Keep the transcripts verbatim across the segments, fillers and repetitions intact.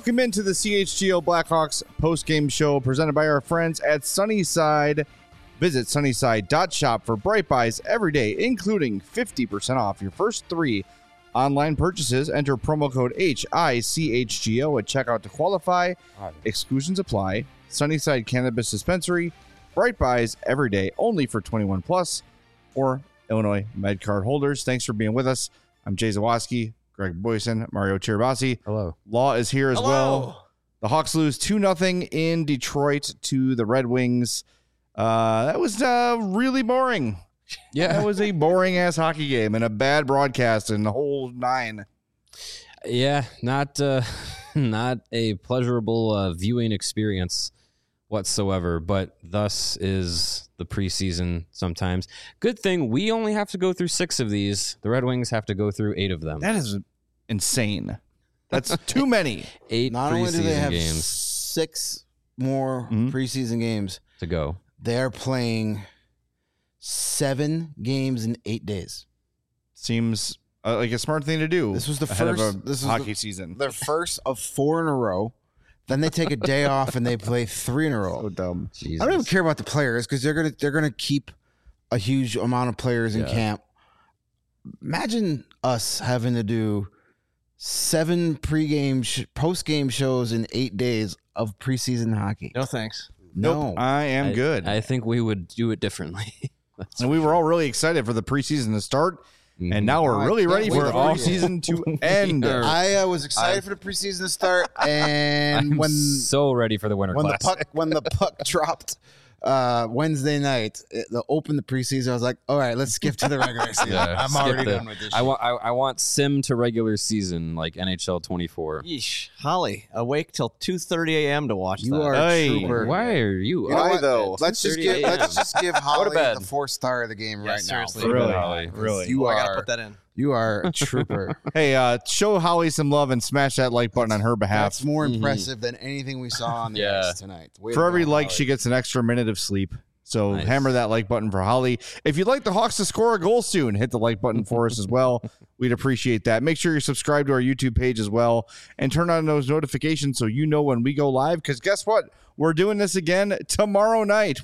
Welcome into the C H G O Blackhawks postgame show presented by our friends at Sunnyside. Visit sunnyside dot shop for Bright Buys every day, including fifty percent off your first three online purchases. Enter promo code H I C H G O at checkout to qualify. Exclusions apply. Sunnyside Cannabis Dispensary. Bright Buys every day, only for twenty-one plus or Illinois MedCard holders. Thanks for being with us. I'm Jay Zawaski, Greg Boyson, Mario Cheribasi. Hello. Law is here as Hello. well. The Hawks lose two nothing in Detroit to the Red Wings. Uh, that was uh, really boring. Yeah. That was a boring-ass hockey game and a bad broadcast and the whole nine. Yeah, not uh, not a pleasurable uh, viewing experience whatsoever, but thus is the preseason sometimes. Good thing we only have to go through six of these. The Red Wings have to go through eight of them. That is insane. That's too many. Eight Not preseason only do they have games six more Mhm. preseason games, to go. they're playing seven games in eight days. Seems uh, like a smart thing to do. This was the ahead first- of a this was hockey the- season. Their first of four in a row. Then they take a day off and they play three in a row. So dumb. Jesus. I don't even care about the players because they're gonna they're gonna keep a huge amount of players in Yeah. camp. Imagine us having to do seven pregame, sh- postgame shows in eight days of preseason hockey. No thanks. No, I am I- good. I think we would do it differently. That's and we were all really excited for the preseason to start, Mhm. and now we're Oh, I really can't ready wait for for off it. season to end. I uh, was excited for the preseason to start, and I'm when so ready for the winter when the class. puck when the puck dropped uh, Wednesday night, it, the open the preseason, I was like, all right, let's skip to the regular season. Yeah, I'm skip already the- done with this. I shit. want I, I want sim to regular season like N H L twenty-four. Yeesh. Holly, awake till two thirty a.m. to watch You that. are Hey. a trooper. Why are you? You know Why, what? though? Let's just 2:30 give a m. let's just give Holly bed. the fourth star of the game Yeah, right seriously. now. Really? Holly. Really? You Oh, I are gotta put that in. you are a trooper. Hey, uh, show Holly some love and smash that like button on her behalf. That's more Mhm. impressive than anything we saw on the Yeah. ice tonight. Way For to every go, like, Holly. she gets an extra minute of sleep. So Nice. hammer that like button for Holly. If you'd like the Hawks to score a goal soon, hit the like button for us as well. We'd appreciate that. Make sure you're subscribed to our YouTube page as well and turn on those notifications so you know when we go live. Because guess what? We're doing this again tomorrow night.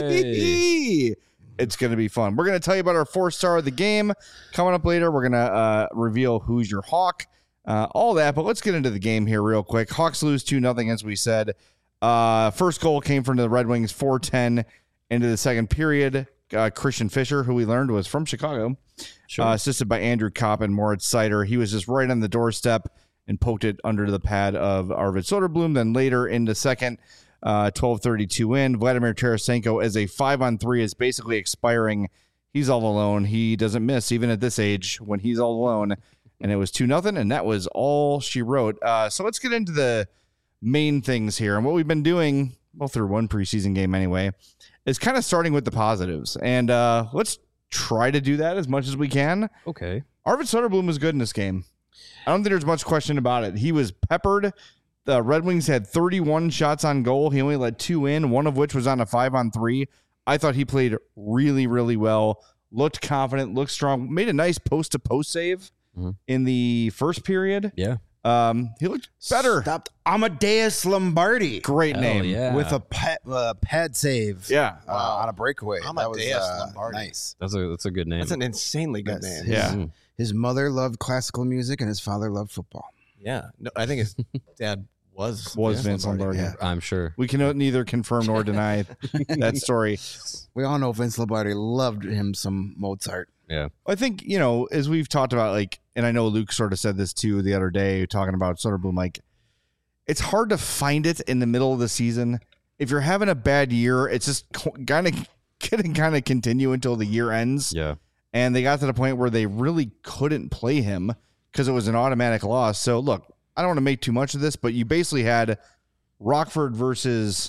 Whee! It's going to be fun. We're going to tell you about our four star of the game. Coming up later, we're going to uh, reveal who's your Hawk. Uh, all that, but let's get into the game here real quick. Hawks lose two nothing, as we said. Uh, first goal came from the Red Wings, four ten into the second period. Uh, Christian Fisher, who we learned was from Chicago, Sure. uh, assisted by Andrew Kopp and Moritz Seider. He was just right on the doorstep and poked it under the pad of Arvid Soderblom. Then later in the second, uh, twelve thirty-two in, Vladimir Tarasenko as a five on three is basically expiring. He's all alone. He doesn't miss even at this age when he's all alone. And it was two nothing, and that was all she wrote. Uh, so let's get into the main things here. And what we've been doing, well, through one preseason game anyway, is kind of starting with the positives. And uh, let's try to do that as much as we can. Okay. Arvid Soderblom was good in this game. I don't think there's much question about it. He was peppered. The Red Wings had thirty-one shots on goal. He only let two in, one of which was on a five on three. I thought he played really, really well. Looked confident, looked strong. Made a nice post-to-post save Mhm. in the first period. Yeah. Um, he looked better. Stopped Amadeus Lombardi Great Hell name. yeah. with a pad, uh, pad save. Yeah. uh, on a breakaway. That was Amadeus uh, Lombardi. nice. That's a that's a good name. That's an insanely good Yes. name. Yeah. Mhm. His mother loved classical music and his father loved football. Yeah. No, I think his dad was Was yeah, Vince Lombardi. yeah. I'm sure. We can neither confirm nor deny that story. We all know Vince Lombardi loved him some Mozart. Yeah. I think, you know, as we've talked about, like, and I know Luke sort of said this too the other day, talking about Soderblom, like, it's hard to find it in the middle of the season. If you're having a bad year, it's just kind of going to kind of continue until the year ends. Yeah. And they got to the point where they really couldn't play him because it was an automatic loss. So, look, I don't want to make too much of this, but you basically had Rockford versus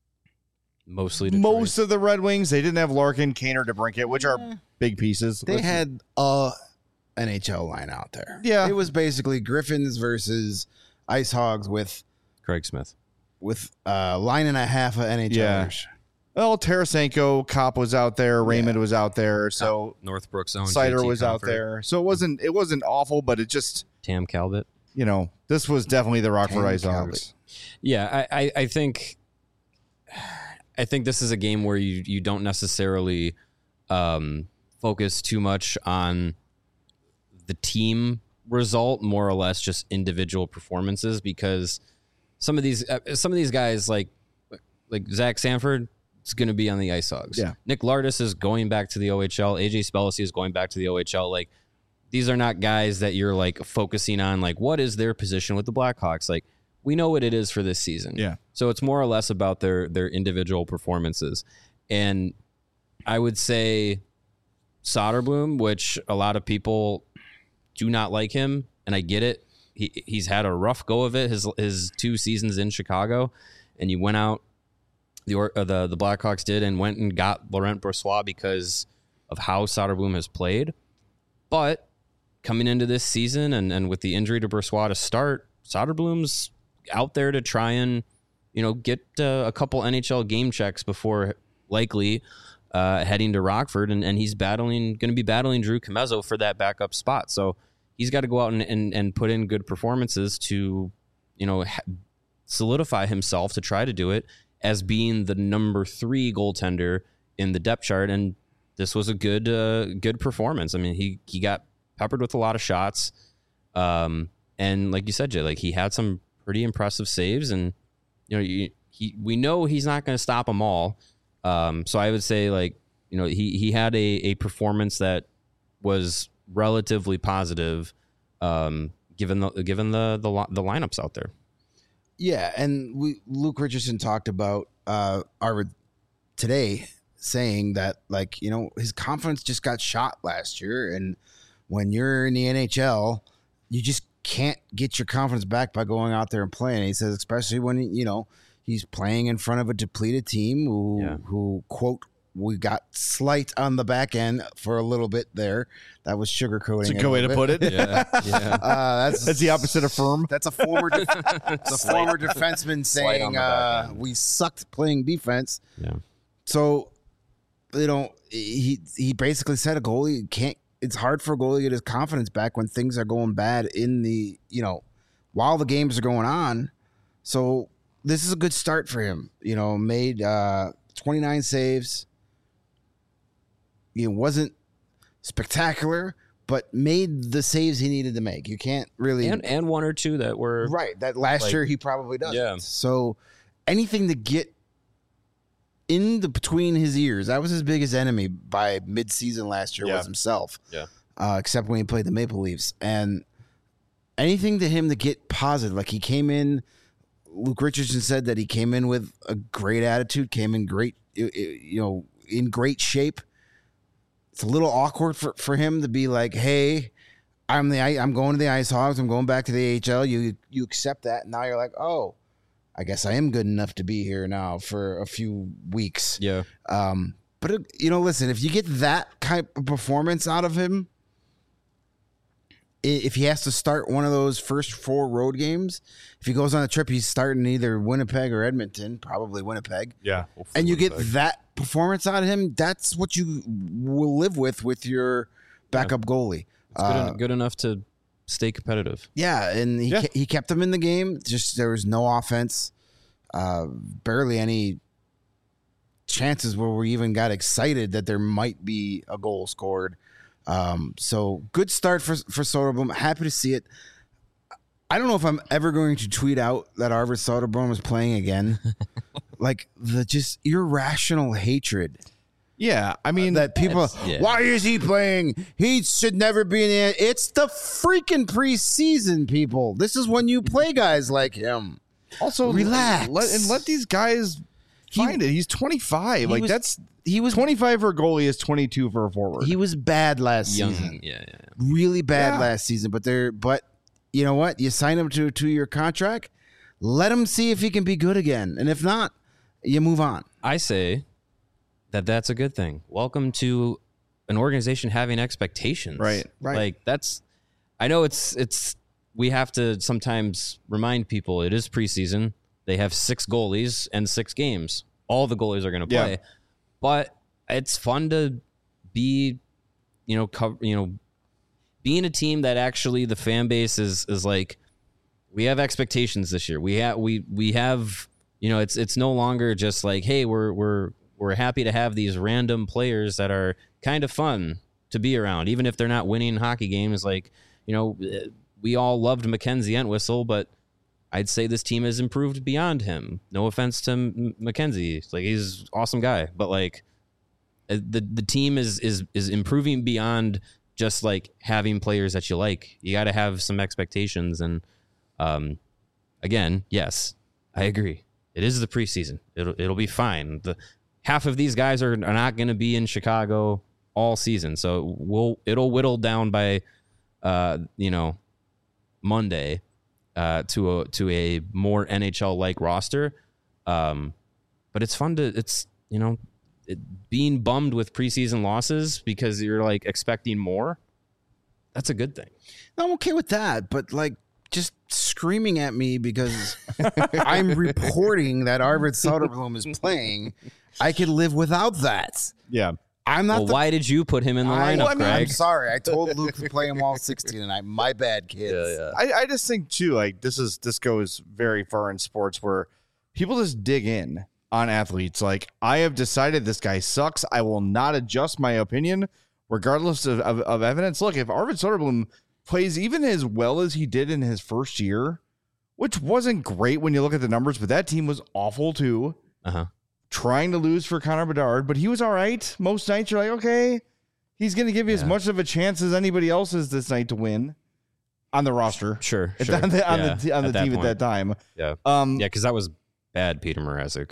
Mostly Detroit. most of the Red Wings. They didn't have Larkin, Kane, or DeBrincat, which are big pieces. They Let's- had a N H L line out there. Yeah. It was basically Griffins versus Ice Hogs with Craig Smith. with a line and a half of N H Lers. Well, Tarasenko, Kopp was out there, Raymond was out there, so Northbrook's own Cider J T was out Comfort. there. So it wasn't it wasn't awful, but it just Tam Calvert. you know, this was definitely the Rockford Ice Hogs. Yeah, I, I, I think I think this is a game where you, you don't necessarily um, focus too much on the team result, more or less just individual performances, because some of these uh, some of these guys like like Zach Sanford is going to be on the Ice Hogs. Yeah. Nick Lardis is going back to the O H L. A J Spellacy is going back to the O H L. Like, these are not guys that you're like focusing on, like, what is their position with the Blackhawks? Like, we know what it is for this season. Yeah. So it's more or less about their their individual performances. And I would say Soderblom, which a lot of people do not like him, and I get it. He he's had a rough go of it his his two seasons in Chicago, and you went out the uh, the the Blackhawks did and went and got Laurent Brossoit because of how Soderblom has played. But coming into this season and, and with the injury to Brossoit to start, Soderblom's out there to try and, you know, get uh, a couple N H L game checks before likely uh, heading to Rockford, and, and he's battling going to be battling Drew Comezzo for that backup spot. So he's got to go out and, and, and put in good performances to, you know, ha- solidify himself to try to do it as being the number three goaltender in the depth chart. And this was a good, uh, good performance. I mean, he, he got peppered with a lot of shots. Um, and like you said, Jay, like he had some pretty impressive saves, and, you know, you, he, we know he's not going to stop them all. Um, so I would say, like, you know, he, he had a, a performance that was relatively positive, um, given the, given the, the, the lineups out there. Yeah, and we Luke Richardson talked about uh our today, saying that, like, you know, his confidence just got shot last year, and when you're in the N H L, you just can't get your confidence back by going out there and playing. And he says, especially when, you know, he's playing in front of a depleted team who Yeah. who quote we got slight on the back end for a little bit there. That was sugarcoating. It's a it good way to little put bit. it. Yeah. Yeah. Uh, that's That's the opposite of firm. That's a former def- it's a former defenseman Slight saying on the back uh, end. we sucked playing defense. Yeah. So, you know, he he basically said a goalie can't. It's hard for a goalie to get his confidence back when things are going bad in the, you know, while the games are going on. So this is a good start for him. You know, made uh, twenty-nine saves. It wasn't spectacular, but made the saves he needed to make. You can't really And, and one or two that were right. That last like- year he probably doesn't. Yeah. So anything to get in the between his ears, that was his biggest enemy by mid-season last year Yeah. was himself. Yeah. Uh, except when he played the Maple Leafs, and anything to him to get positive. Like he came in. Luke Richardson said that he came in with a great attitude, came in great, you know, in great shape. It's a little awkward for, for him to be like, "Hey, I'm the I'm going to the Ice Hogs. I'm going back to the A H L." You you accept that, and now you're like, "Oh, I guess I am good enough to be here now for a few weeks." yeah. Um, but it, you know, listen, if you get that type of performance out of him, i- if he has to start one of those first four road games, if he goes on a trip, he's starting either Winnipeg or Edmonton, probably Winnipeg. Yeah. And you get that performance out of him, that's what you will live with with your backup goalie. It's good, Uh, en- good enough to stay competitive. yeah, and he Yeah. ke- he kept them in the game. Just there was no offense, uh, barely any chances where we even got excited that there might be a goal scored. Um, so good start for for Soderblom. Happy to see it. I don't know if I'm ever going to tweet out that Arvid Soderblom is playing again. Like the just irrational hatred Yeah. I mean, that people. That's- yeah. Why is he playing? He should never be in it. It's the freaking preseason, people. This is when you play guys like him. also Relax. let, and let these guys find it. He's twenty-five. Like was- that's He was twenty-five for a goalie is twenty-two for a forward. he was bad last Young. season. Yeah, yeah, yeah. Really bad Yeah. last season. But they're but you know what? You sign him to a two year contract. Let him see if he can be good again, and if not, you move on. I say that that's a good thing. Welcome to an organization having expectations. Right, right. Like that's, I know it's, it's, we have to sometimes remind people it is preseason. They have six goalies and six games. All the goalies are going to Yeah. play, but it's fun to be, you know, cover, you know, being a team that actually the fan base is, is like we have expectations this year. We have we we have you know it's it's no longer just like, hey, we're we're we're happy to have these random players that are kind of fun to be around, even if they're not winning hockey games. Like, you know, we all loved Mackenzie Entwistle, but I'd say this team has improved beyond him. No offense to M- Mackenzie, like he's an awesome guy, but like the the team is is is improving beyond just like having players that you like. You got to have some expectations. And um, again, yes, I agree. It is the preseason. It'll it'll be fine. The half of these guys are, are not going to be in Chicago all season, so we'll it'll whittle down by uh, you know Monday uh, to a to a more N H L like roster. Um, but it's fun to it's you know. It, being bummed with preseason losses because you're like expecting more, that's a good thing. I'm okay with that, but like just screaming at me because I'm reporting that Arvid Soderblom is playing, I could live without that. Yeah. I'm not. Well, the, why did you put him in the I, lineup, well, I mean, Greg? I'm sorry. I told Luke to play him all sixteen, and I my bad, kids. Yeah, yeah. I, I just think too, like this is this goes very far in sports where people just dig in on athletes. Like, I have decided this guy sucks. I will not adjust my opinion regardless of, of, of evidence. Look, if Arvid Soderblom plays even as well as he did in his first year, which wasn't great when you look at the numbers, but that team was awful too. Uh-huh. Trying to lose for Connor Bedard, but he was all right. Most nights you're like, okay, he's going to give you Yeah. as much of a chance as anybody else is this night to win on the roster. Sure, At sure. the- on the, on Yeah, the, on the at that team point. at that time. Yeah. Um, Yeah, because that was bad Peter Mrazek.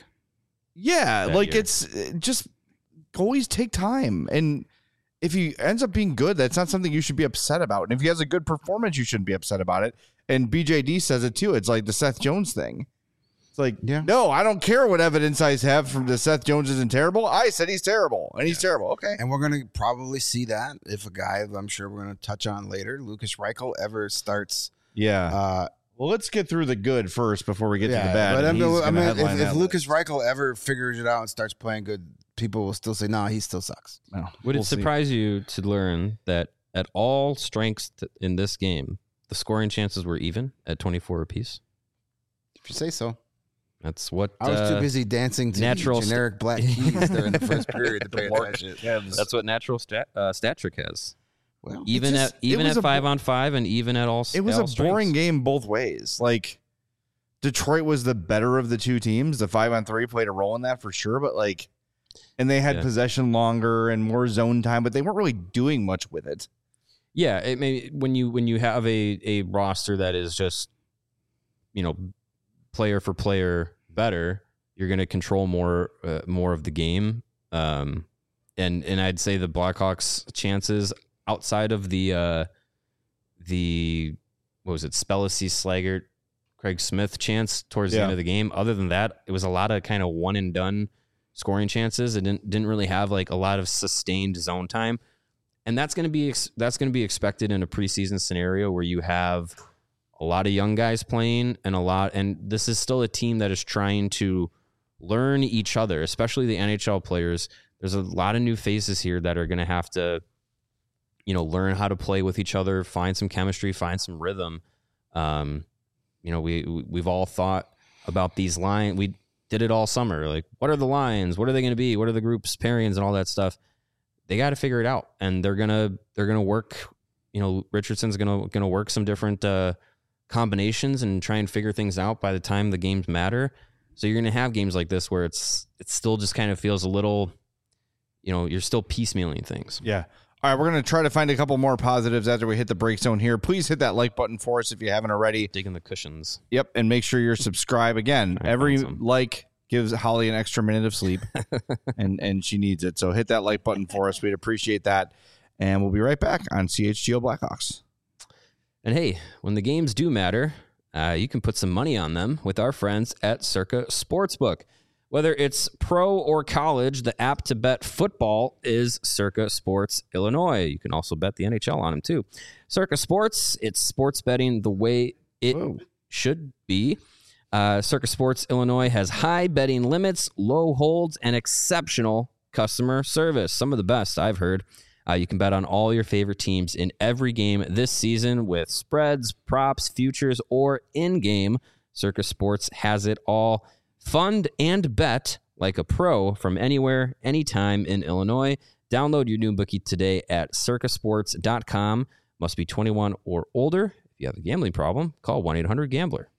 Yeah, that like year. it's uh, just goalies take time, and if he ends up being good, that's not something you should be upset about. And if he has a good performance, you shouldn't be upset about it. And B J D says it too. It's like the Seth Jones thing. It's like, Yeah. no, I don't care what evidence I have from the Seth Jones isn't terrible. I said he's terrible, and he's terrible. Okay, And we're going to probably see that if a guy I'm sure we're going to touch on later, Lucas Reichel, ever starts. yeah. Uh, Well, let's get through the good first before we get to the yeah, bad. but I and mean, he's I gonna mean, headline if, that if Lucas list. Reichel ever figures it out and starts playing good, people will still say, no, he still sucks. Well, Would we'll it see. surprise you to learn that at all strengths t- in this game, the scoring chances were even at twenty-four apiece? If you say so. That's what I was uh, too busy dancing to natural st- generic black keys during the first period to pay attention. That's what natural stat uh, stat trick has. Well, Even just- at even it was at a five bo- on five and even at all. It was all a strengths. boring game both ways. Like, Detroit was the better of the two teams. The five on three played a role in that for sure, but like, and they had Yeah. possession longer and more zone time, but they weren't really doing much with it. Yeah, it may when you when you have a a roster that is just, you know, player for player better, you're going to control more uh, more of the game. Um, and and I'd say the Blackhawks' chances outside of the uh, the what was it, Spellacy, Slaggert, Craig Smith chance towards the Yeah. end of the game. Other than that, it was a lot of kind of one and done scoring chances. It didn't didn't really have like a lot of sustained zone time. And that's going to be ex- that's going to be expected in a preseason scenario where you have a lot of young guys playing and a lot, and this is still a team that is trying to learn each other, especially the N H L players. There's a lot of new faces here that are going to have to, you know, learn how to play with each other, find some chemistry, find some rhythm. Um, you know, we we- we've all thought about these lines. We did it all summer. Like, what are the lines? What are they going to be? What are the groups, pairings, and all that stuff? They got to figure it out, and they're gonna they're gonna work. You know, Richardson's gonna gonna work some different uh, combinations and try and figure things out by the time the games matter. So you're gonna have games like this where it's it still just kind of feels a little, you know, you're still piecemealing things. Yeah. All right, we're going to try to find a couple more positives after we hit the break zone here. Please hit that like button for us if you haven't already. Digging the cushions. Yep, and make sure you're subscribed. Again, Try and every find some. like gives Holly an extra minute of sleep, and and she needs it. So hit that like button for us. We'd appreciate that. And we'll be right back on C H G O Blackhawks. And hey, when the games do matter, uh, you can put some money on them with our friends at Circa Sportsbook. Whether it's pro or college, the app to bet football is Circa Sports Illinois. You can also bet the N H L on them too. Circa Sports, it's sports betting the way it Whoa. should be. Uh, Circa Sports Illinois has high betting limits, low holds, and exceptional customer service. Some of the best I've heard. Uh, you can bet on all your favorite teams in every game this season with spreads, props, futures, or in-game. Circa Sports has it all. Fund and bet like a pro from anywhere, anytime in Illinois. Download your new bookie today at circa sports dot com. Must be twenty-one or older. If you have a gambling problem, call one eight hundred gambler.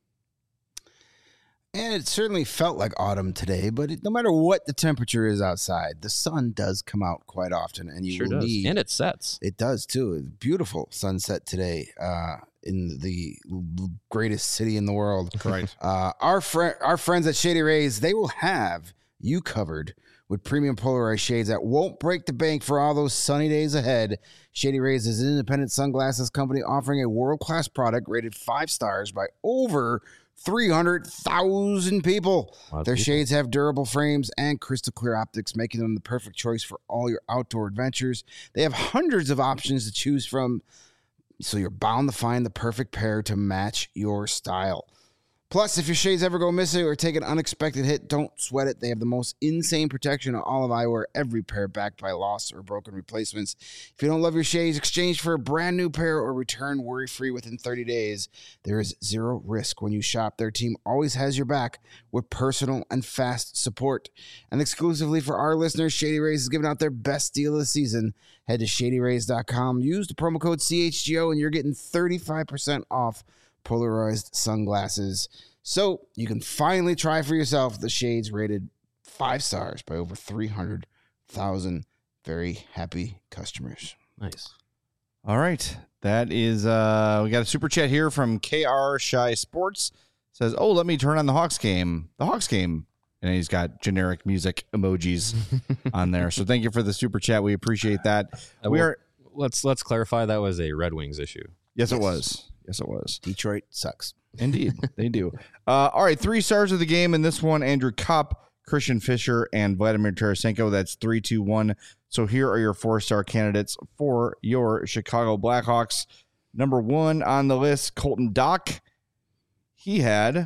And it certainly felt like autumn today, but it, no matter what the temperature is outside, the sun does come out quite often, and you Sure will does. need. And it sets. It does too. It's beautiful sunset today uh, in the l- greatest city in the world. Right. Uh, our fr- our friends at Shady Rays, they will have you covered with premium polarized shades that won't break the bank for all those sunny days ahead. Shady Rays is an independent sunglasses company offering a world-class product rated five stars by over three hundred thousand people. Their people. shades have durable frames and crystal clear optics, making them the perfect choice for all your outdoor adventures. They have hundreds of options to choose from, so you're bound to find the perfect pair to match your style. Plus, if your shades ever go missing or take an unexpected hit, don't sweat it. They have the most insane protection on all of eyewear, every pair backed by lost or broken replacements. If you don't love your shades, exchange for a brand new pair or return worry-free within thirty days. There is zero risk when you shop. Their team always has your back with personal and fast support. And exclusively for our listeners, Shady Rays is giving out their best deal of the season. Head to shady rays dot com, use the promo code C H G O, and you're getting thirty-five percent off polarized sunglasses, so you can finally try for yourself the shades rated five stars by over three hundred thousand very happy customers. Nice. All right. That is, uh, we got a super chat here from K R Shy Sports. Says, oh, let me turn on the Hawks game. The Hawks game. And he's got generic music emojis on there. So thank you for the super chat. We appreciate that. Uh, we well, are, Let's let's clarify that was a Red Wings issue. yes, Yes. it was. Yes, it was. Detroit sucks. Indeed, they do. Uh, all right, three stars of the game in this one: Andrew Kopp, Christian Fischer, and Vladimir Tarasenko. That's three, two, one. So here are your four-star candidates for your Chicago Blackhawks. Number one on the list, Colton Dach. He had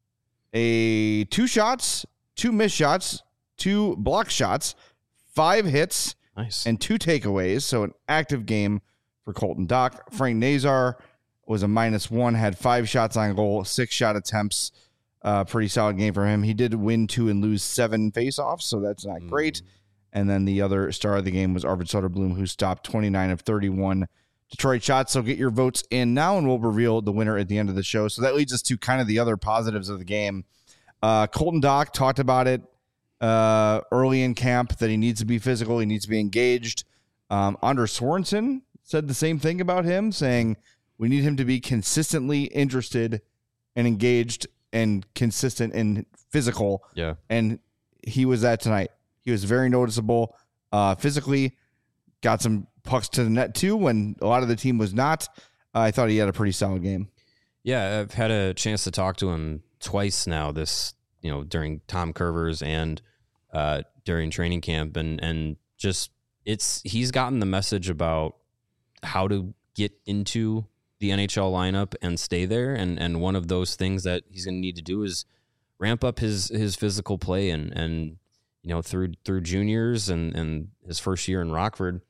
a two shots, two missed shots, two block shots, five hits, Nice. and two takeaways. So an active game for Colton Dach. Frank Nazar was a minus one, had five shots on goal, six shot attempts. Uh, pretty solid game for him. He did win two and lose seven faceoffs, so that's not great. And then the other star of the game was Arvid Soderblom, who stopped twenty-nine of thirty-one Detroit shots. So get your votes in now, and we'll reveal the winner at the end of the show. So that leads us to kind of the other positives of the game. Uh, Colton Dach talked about it uh, early in camp that he needs to be physical, he needs to be engaged. Um, Anders Sorensen said the same thing about him, saying we need him to be consistently interested and engaged and consistent and physical. Yeah. And he was that tonight. He was very noticeable uh, physically, got some pucks to the net too when a lot of the team was not. Uh, I thought he had a pretty solid game. Yeah, I've had a chance to talk to him twice now this, you know, during Tom Curvers and uh, during training camp. And, and just, it's, he's gotten the message about how to get into the N H L lineup and stay there. And, and one of those things that he's going to need to do is ramp up his, his physical play. And, and, you know, through, through juniors and, and his first year in Rockford,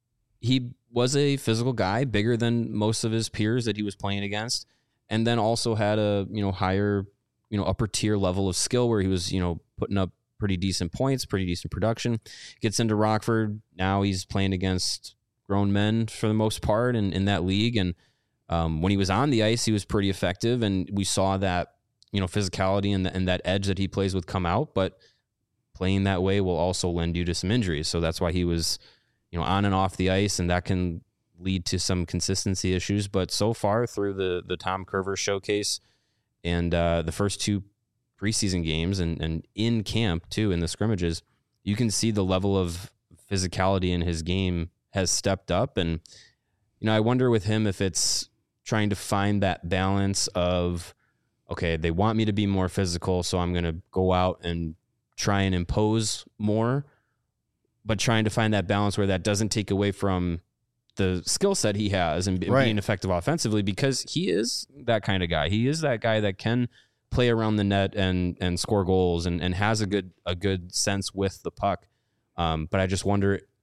he was a physical guy, bigger than most of his peers that he was playing against. And then also had a, you know, higher, you know, upper tier level of skill where he was, you know, putting up pretty decent points, pretty decent production. Gets into Rockford. Now he's playing against grown men for the most part in, in that league. And um, when he was on the ice, he was pretty effective. And we saw that, you know, physicality and, the, and that edge that he plays with come out. But playing that way will also lend you to some injuries. So that's why he was, you know, on and off the ice, and that can lead to some consistency issues. But so far through the the Tom Curver showcase and uh, the first two preseason games and, and in camp too, in the scrimmages, you can see the level of physicality in his game has stepped up. And, you know, I wonder with him if it's trying to find that balance of, okay, they want me to be more physical, so I'm going to go out and try and impose more, but trying to find that balance where that doesn't take away from the skill set he has and Right. being effective offensively, because he is that kind of guy. He is that guy that can play around the net and and score goals and, and has a good a good sense with the puck. Um, but I just wonder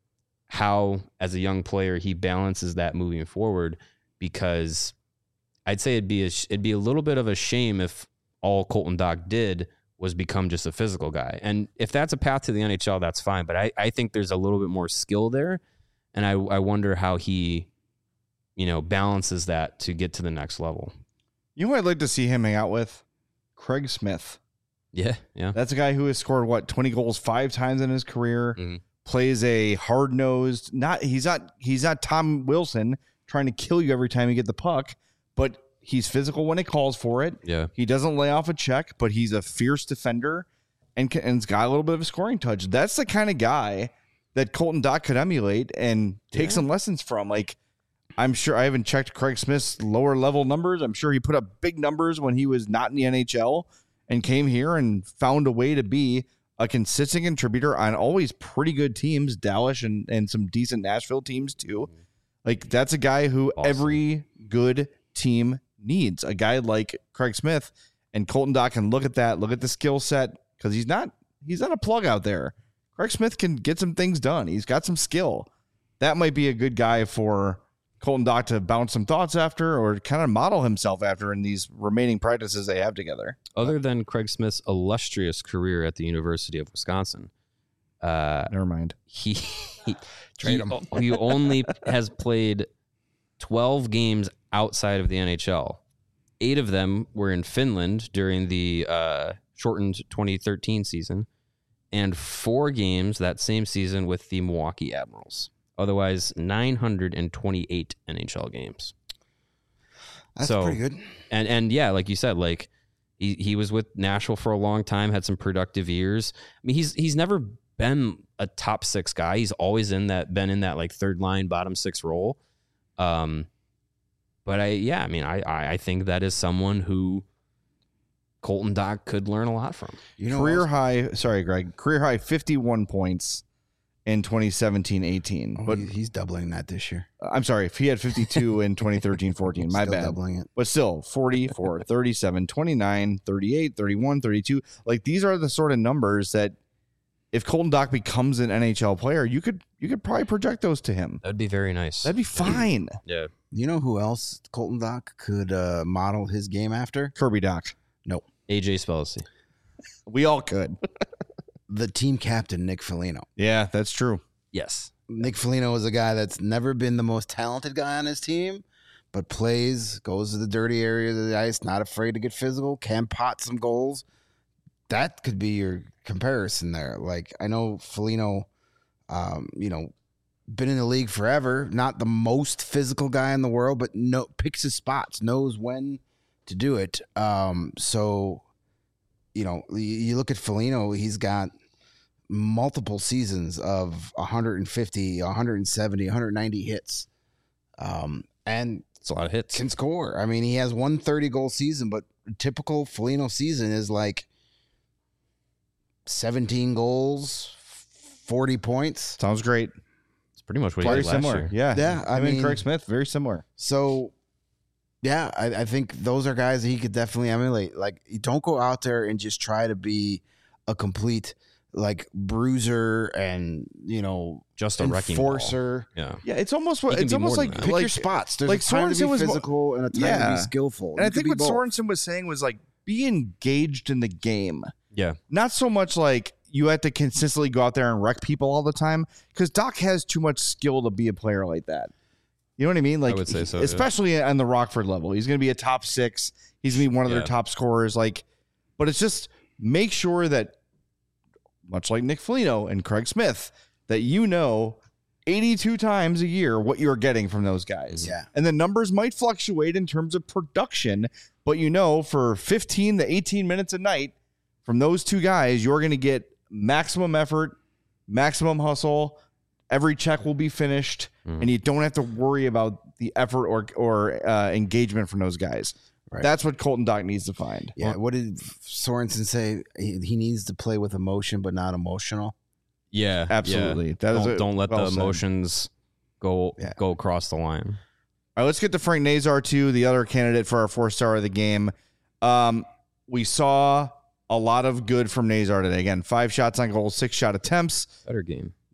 how, as a young player, he balances that moving forward, because I'd say it'd be a, it'd be a little bit of a shame if all Colton Dach did was become just a physical guy. And if that's a path to the N H L, that's fine. But I, I think there's a little bit more skill there. And I, I wonder how he, you know, balances that to get to the next level. You know who I'd like to see him hang out with? Craig Smith. Yeah, yeah. That's a guy who has scored, what, twenty goals five times in his career, Mm-hmm. plays a hard-nosed, not he's not he's not Tom Wilson trying to kill you every time you get the puck, but he's physical when it calls for it. Yeah. He doesn't lay off a check, but he's a fierce defender and can, and's got a little bit of a scoring touch. That's the kind of guy that Colton Dach could emulate and take Yeah. some lessons from. Like, I'm sure I haven't checked Craig Smith's lower level numbers. I'm sure he put up big numbers when he was not in the N H L and came here and found a way to be a consistent contributor on always pretty good teams, Dallas and, and some decent Nashville teams too. Like, that's a guy who Awesome. every good team needs, a guy like Craig Smith, and Colton Dach can look at that, look at the skill set, because he's not he's not a plug out there. Craig Smith can get some things done. He's got some skill. That might be a good guy for Colton Dach to bounce some thoughts after, or kind of model himself after in these remaining practices they have together. Other than Craig Smith's illustrious career at the University of Wisconsin, uh, Never mind. he he, Trade he, he only has played twelve games outside of the N H L. Eight of them were in Finland during the uh, shortened twenty thirteen season, and four games that same season with the Milwaukee Admirals. Otherwise, nine hundred twenty-eight N H L games. That's So- pretty good. And and yeah, like you said, like he, he was with Nashville for a long time, had some productive years. I mean, he's he's never been a top six guy. He's always in that been in that like third line, bottom six role. Um, but I yeah, I mean, I I, I think that is someone who Colton Dach could learn a lot from. You know, Career also- high, sorry, Greg, career high fifty-one points in twenty seventeen eighteen. oh, But he- he's doubling that this year. I'm sorry, if he had fifty-two in twenty thirteen fourteen, my Still bad. doubling it. But still, forty-four, thirty-seven, twenty-nine, thirty-eight, thirty-one, thirty-two. Like, these are the sort of numbers that if Colton Dach becomes an N H L player, you could you could probably project those to him. That'd be very nice. That'd be fine. Yeah. You know who else Colton Dach could uh, model his game after? Kirby Dach. Nope. A J Spellacy. We all could. The team captain, Nick Foligno. Yeah, that's true. Yes. Nick Foligno is a guy that's never been the most talented guy on his team, but plays, goes to the dirty areas of the ice, not afraid to get physical, can pot some goals. That could be your comparison there. Like, I know Foligno, um, you know, been in the league forever, not the most physical guy in the world, but no picks his spots, knows when to do it. Um, so, you know, you, you look at Foligno, he's got multiple seasons of one fifty, one seventy, one ninety hits, um, and It's a lot of hits. can score. I mean, he has one thirty goal season, but a typical Foligno season is like seventeen goals, forty points. Sounds great. It's pretty much what he Very did last similar. year. Yeah. Yeah, I I mean, mean- Craig Smith, very similar. So, yeah, I, I think those are guys that he could definitely emulate. Like, you don't go out there and just try to be a complete like bruiser and you know Just a wrecking ball. enforcer. Yeah. Yeah, it's almost He what can it's be almost more like than that. Pick like your spots. There's like a time to Sorensen be was mo- physical and a time to Yeah. be skillful. and I You could think be what both. Sorensen was saying was like be engaged in the game. Yeah. Not so much like you have to consistently go out there and wreck people all the time, because Doc has too much skill to be a player like that. You know what I mean? Like, would say so, yeah. especially on the Rockford level, he's going to be a top six. He's going to be one of their Yeah. top scorers. Like, but it's just make sure that, much like Nick Foligno and Craig Smith, that you know eighty-two times a year what you're getting from those guys. Yeah. And the numbers might fluctuate in terms of production, but you know for fifteen to eighteen minutes a night from those two guys, you're going to get maximum effort, maximum hustle. Every check will be finished, Mhm. and you don't have to worry about the effort or or uh, engagement from those guys. Right. That's what Colton Dach needs to find. Yeah. What did Sorensen say? He, he needs to play with emotion, but not emotional. Yeah. Absolutely. Yeah. That is don't, a- don't let well the said. emotions go Yeah. go across the line. All right, let's get to Frank Nazar too, the other candidate for our four star of the game. Um, we saw a lot of good from Nazar today. Again, five shots on goal, six shot attempts, Better game.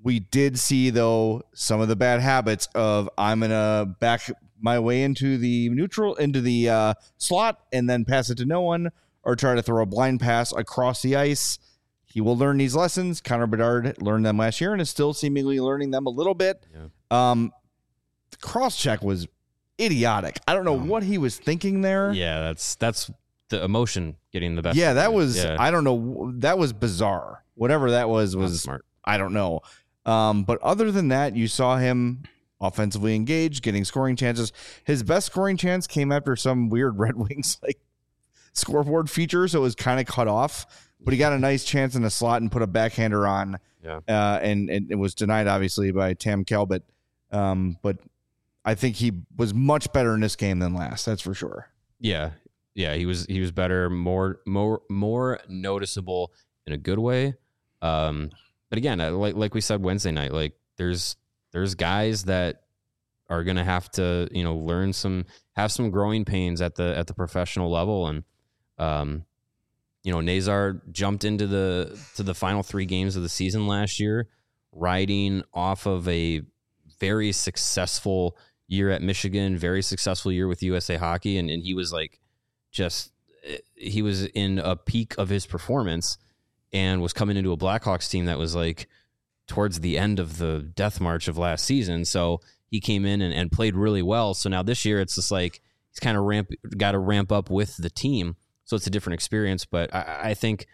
We did see, though, some of the bad habits of I'm going to back my way into the neutral, into the uh, slot, and then pass it to no one, or try to throw a blind pass across the ice. He will learn these lessons. Connor Bedard learned them last year and is still seemingly learning them a little bit. Yeah. Um, the cross check was idiotic. I don't know um, what he was thinking there. Yeah, that's that's the emotion getting the best. Yeah, that was, yeah. I don't know. That was bizarre. Whatever that was, was smart. I don't know. Um, but other than that, you saw him offensively engaged, getting scoring chances. His best scoring chance came after some weird Red Wings like scoreboard feature, so it was kind of cut off. But he got a nice chance in the slot and put a backhander on. Yeah. Uh, and, and it was denied, obviously, by Tam Calbert. Um, but I think he was much better in this game than last. That's for sure. Yeah. Yeah. He was, he was better, more, more, more noticeable in a good way. Um, but again, like, like we said Wednesday night, like there's, there's guys that are going to have to, you know, learn some, have some growing pains at the, at the professional level. And, um, you know, Nazar jumped into the, to the final three games of the season last year, riding off of a very successful year at Michigan, very successful year with U S A Hockey. And, and he was like, just, he was in a peak of his performance and was coming into a Blackhawks team that was like towards the end of the death march of last season. So he came in and, and played really well. So now this year it's just like, he's kind of ramp, got to ramp up with the team. So it's a different experience, but I, I think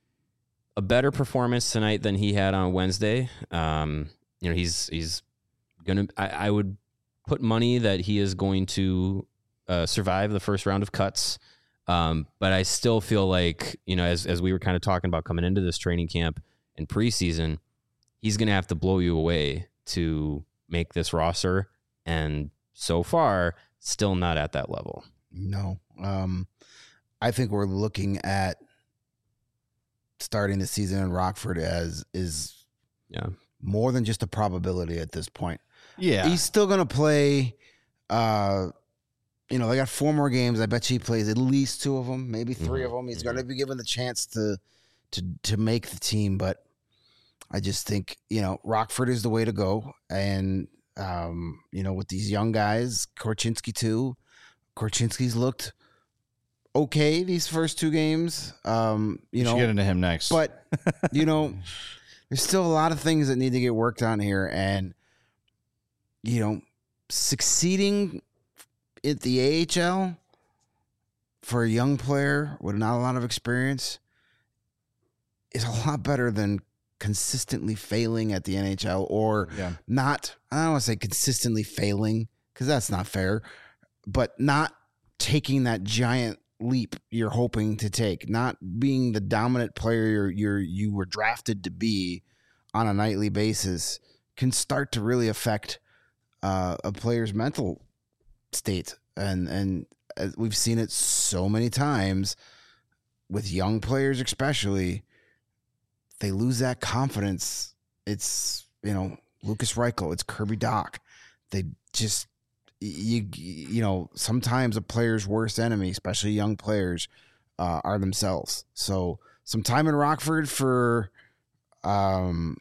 a better performance tonight than he had on Wednesday. Um, you know, he's, he's going to, I would put money that he is going to uh, survive the first round of cuts. Um, but I still feel like, you know, as, as we were kind of talking about coming into this training camp and preseason, he's going to have to blow you away to make this roster. And so far, still not at that level. No. Um, I think we're looking at starting the season in Rockford as is yeah more than just a probability at this point. Yeah. He's still going to play, uh, you know, they got four more games. I bet you he plays at least two of them, maybe three mm-hmm. of them. He's mm-hmm. going to be given the chance to, to, to make the team. But I just think, you know, Rockford is the way to go. And, um, you know, with these young guys, Korchinski too, Korchinski's looked okay these first two games. Um, you we know, should get into him next. But, you know, there's still a lot of things that need to get worked on here. And, you know, succeeding at the A H L for a young player with not a lot of experience is a lot better than consistently failing at the N H L or yeah. not. I don't want to say consistently failing because that's not fair, but not taking that giant leap you're hoping to take, not being the dominant player you're, you're you were drafted to be on a nightly basis can start to really affect uh, a player's mental state. And and we've seen it so many times with young players, especially. They lose that confidence. It's, you know, Lucas Reichel, it's Kirby Dach. They just you you know, sometimes a player's worst enemy, especially young players, uh, are themselves. So some time in Rockford for um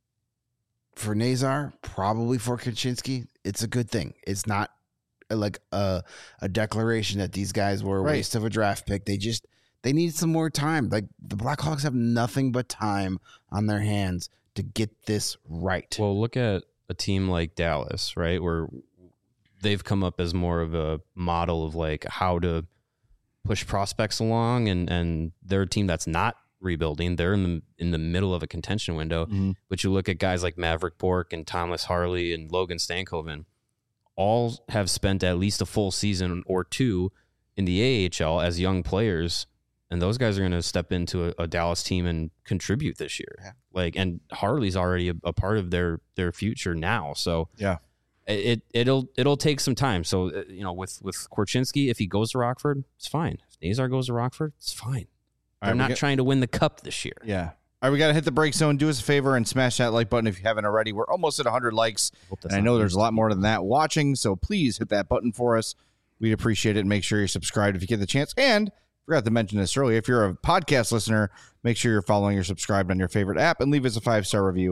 for Nazar, probably for Korchinski. It's a good thing. It's not like a a declaration that these guys were a right. waste of a draft pick. They just they need some more time. Like the Blackhawks have nothing but time on their hands to get this right. Well, look at a team like Dallas, right, where they've come up as more of a model of like how to push prospects along, and and they're a team that's not rebuilding. They're in the in the middle of a contention window. Mm-hmm. But you look at guys like Maverick Bourque and Thomas Harley and Logan Stankoven, all have spent at least a full season or two in the A H L as young players, and those guys are going to step into a, a Dallas team and contribute this year. Yeah. Like, and Harley's already a, a part of their their future now. So yeah, it it'll it'll take some time. So you know, with with Korchinski, if he goes to Rockford, it's fine. If Nazar goes to Rockford, it's fine. They're right, not get, trying to win the cup this year. Yeah. All right, we got to hit the break zone. Do us a favor and smash that like button if you haven't already. We're almost at one hundred likes, and I know there's a lot more than that watching, so please hit that button for us. We'd appreciate it, and make sure you're subscribed if you get the chance. And forgot to mention this earlier, if you're a podcast listener, make sure you're following or subscribed on your favorite app, and leave us a five-star review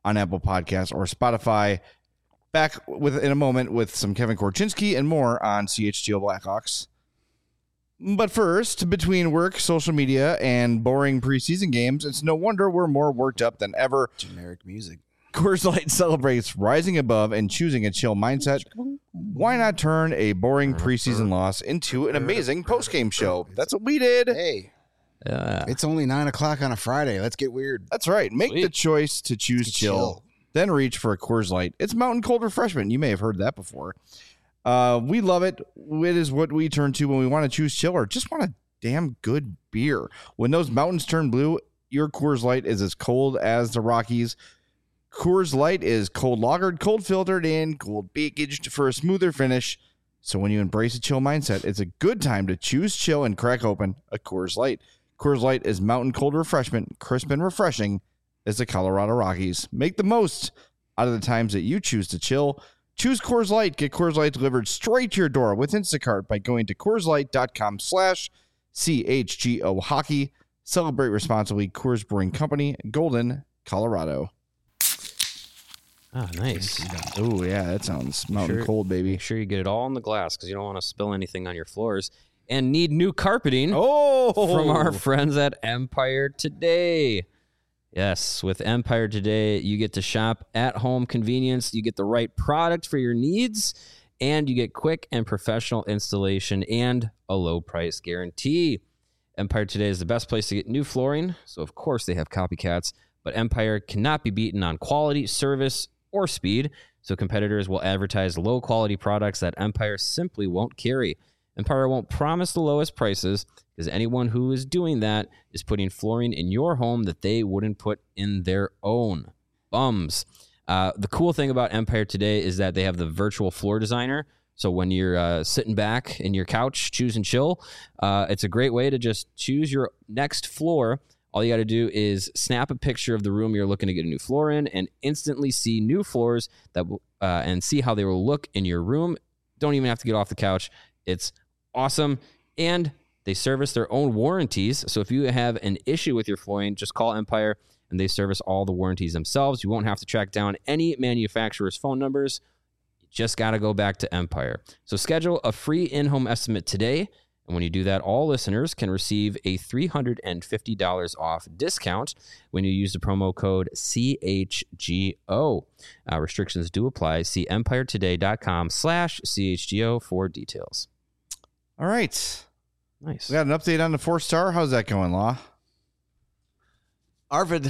on Apple Podcasts or Spotify. Back with in a moment with some Kevin Korchinski and more on C H G O Blackhawks. But first, between work, social media, and boring preseason games, it's no wonder we're more worked up than ever. Generic music. Coors Light celebrates rising above and choosing a chill mindset. Why not turn a boring preseason loss into an amazing postgame show? That's what we did. Hey, Yeah. it's only nine o'clock on a Friday. Let's get weird. That's right. Make Sweet. the choice to choose To chill, chill. then reach for a Coors Light. It's mountain cold refreshment. You may have heard that before. Uh, we love it. It is what we turn to when we want to choose chill or just want a damn good beer. When those mountains turn blue, your Coors Light is as cold as the Rockies. Coors Light is cold lagered, cold filtered, and cold packaged for a smoother finish. So when you embrace a chill mindset, it's a good time to choose chill and crack open a Coors Light. Coors Light is mountain cold refreshment, crisp and refreshing as the Colorado Rockies. Make the most out of the times that you choose to chill. Choose Coors Light. Get Coors Light delivered straight to your door with Instacart by going to CoorsLight.com slash CHGO Hockey. Celebrate responsibly. Coors Brewing Company, Golden, Colorado. Ah, nice. Oh, yeah, that sounds mountain Sure. cold, baby. Make sure you get it all in the glass because you don't want to spill anything on your floors. And need new carpeting Oh, from our friends at Empire Today. Yes, with Empire Today, you get to shop at home convenience. You get the right product for your needs, and you get quick and professional installation and a low price guarantee. Empire Today is the best place to get new flooring, so of course they have copycats, but Empire cannot be beaten on quality, service, or speed, so competitors will advertise low-quality products that Empire simply won't carry. Empire won't promise the lowest prices because anyone who is doing that is putting flooring in your home that they wouldn't put in their own. Bums. Uh, the cool thing about Empire Today is that they have the virtual floor designer. So when you're uh, sitting back in your couch, choose and chill, uh, it's a great way to just choose your next floor. All you got to do is snap a picture of the room you're looking to get a new floor in and instantly see new floors that will, uh, and see how they will look in your room. Don't even have to get off the couch. It's awesome. And they service their own warranties. So if you have an issue with your flooring, just call Empire and they service all the warranties themselves. You won't have to track down any manufacturer's phone numbers. You just got to go back to Empire. So schedule a free in-home estimate today. And when you do that, all listeners can receive a three hundred fifty dollars off discount when you use the promo code C H G O. Uh, restrictions do apply. See empiretoday.com slash CHGO for details. All right. Nice. We got an update on the four-star. How's that going, Law? Arvid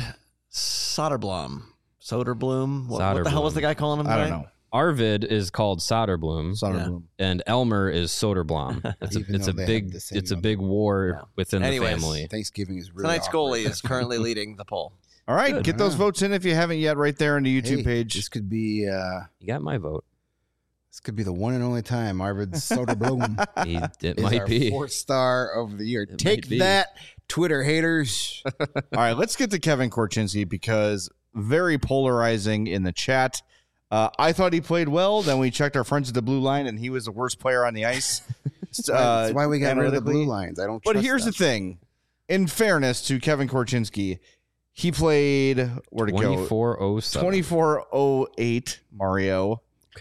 Soderblom. Soderblom. What, what the hell was the guy calling him? I don't today? know. Arvid is called Soderblom, Soderblom. and Elmer is Soderblom. It's a, Even it's though a they have big the same it's a number. big war Yeah. within Anyways. the family. Thanksgiving is really Tonight's awkward. goalie is currently leading the poll. All right, Good. get those votes in if you haven't yet right there on the YouTube Hey, page. This could be uh, You got my vote. this could be the one and only time Arvid Soderblom He, it is might our be. fourth star of the year. It Take might be. that, Twitter haters. All right, let's get to Kevin Korchinski because very polarizing in the chat. Uh, I thought he played well. Then we checked our friends at the blue line, and he was the worst player on the ice. That's why we got rid of the analytically. blue lines. I don't. But trust here's them. the thing. In fairness to Kevin Korchinski, he played, where'd it go? twenty-four oh seven. twenty-four oh eight, Mario.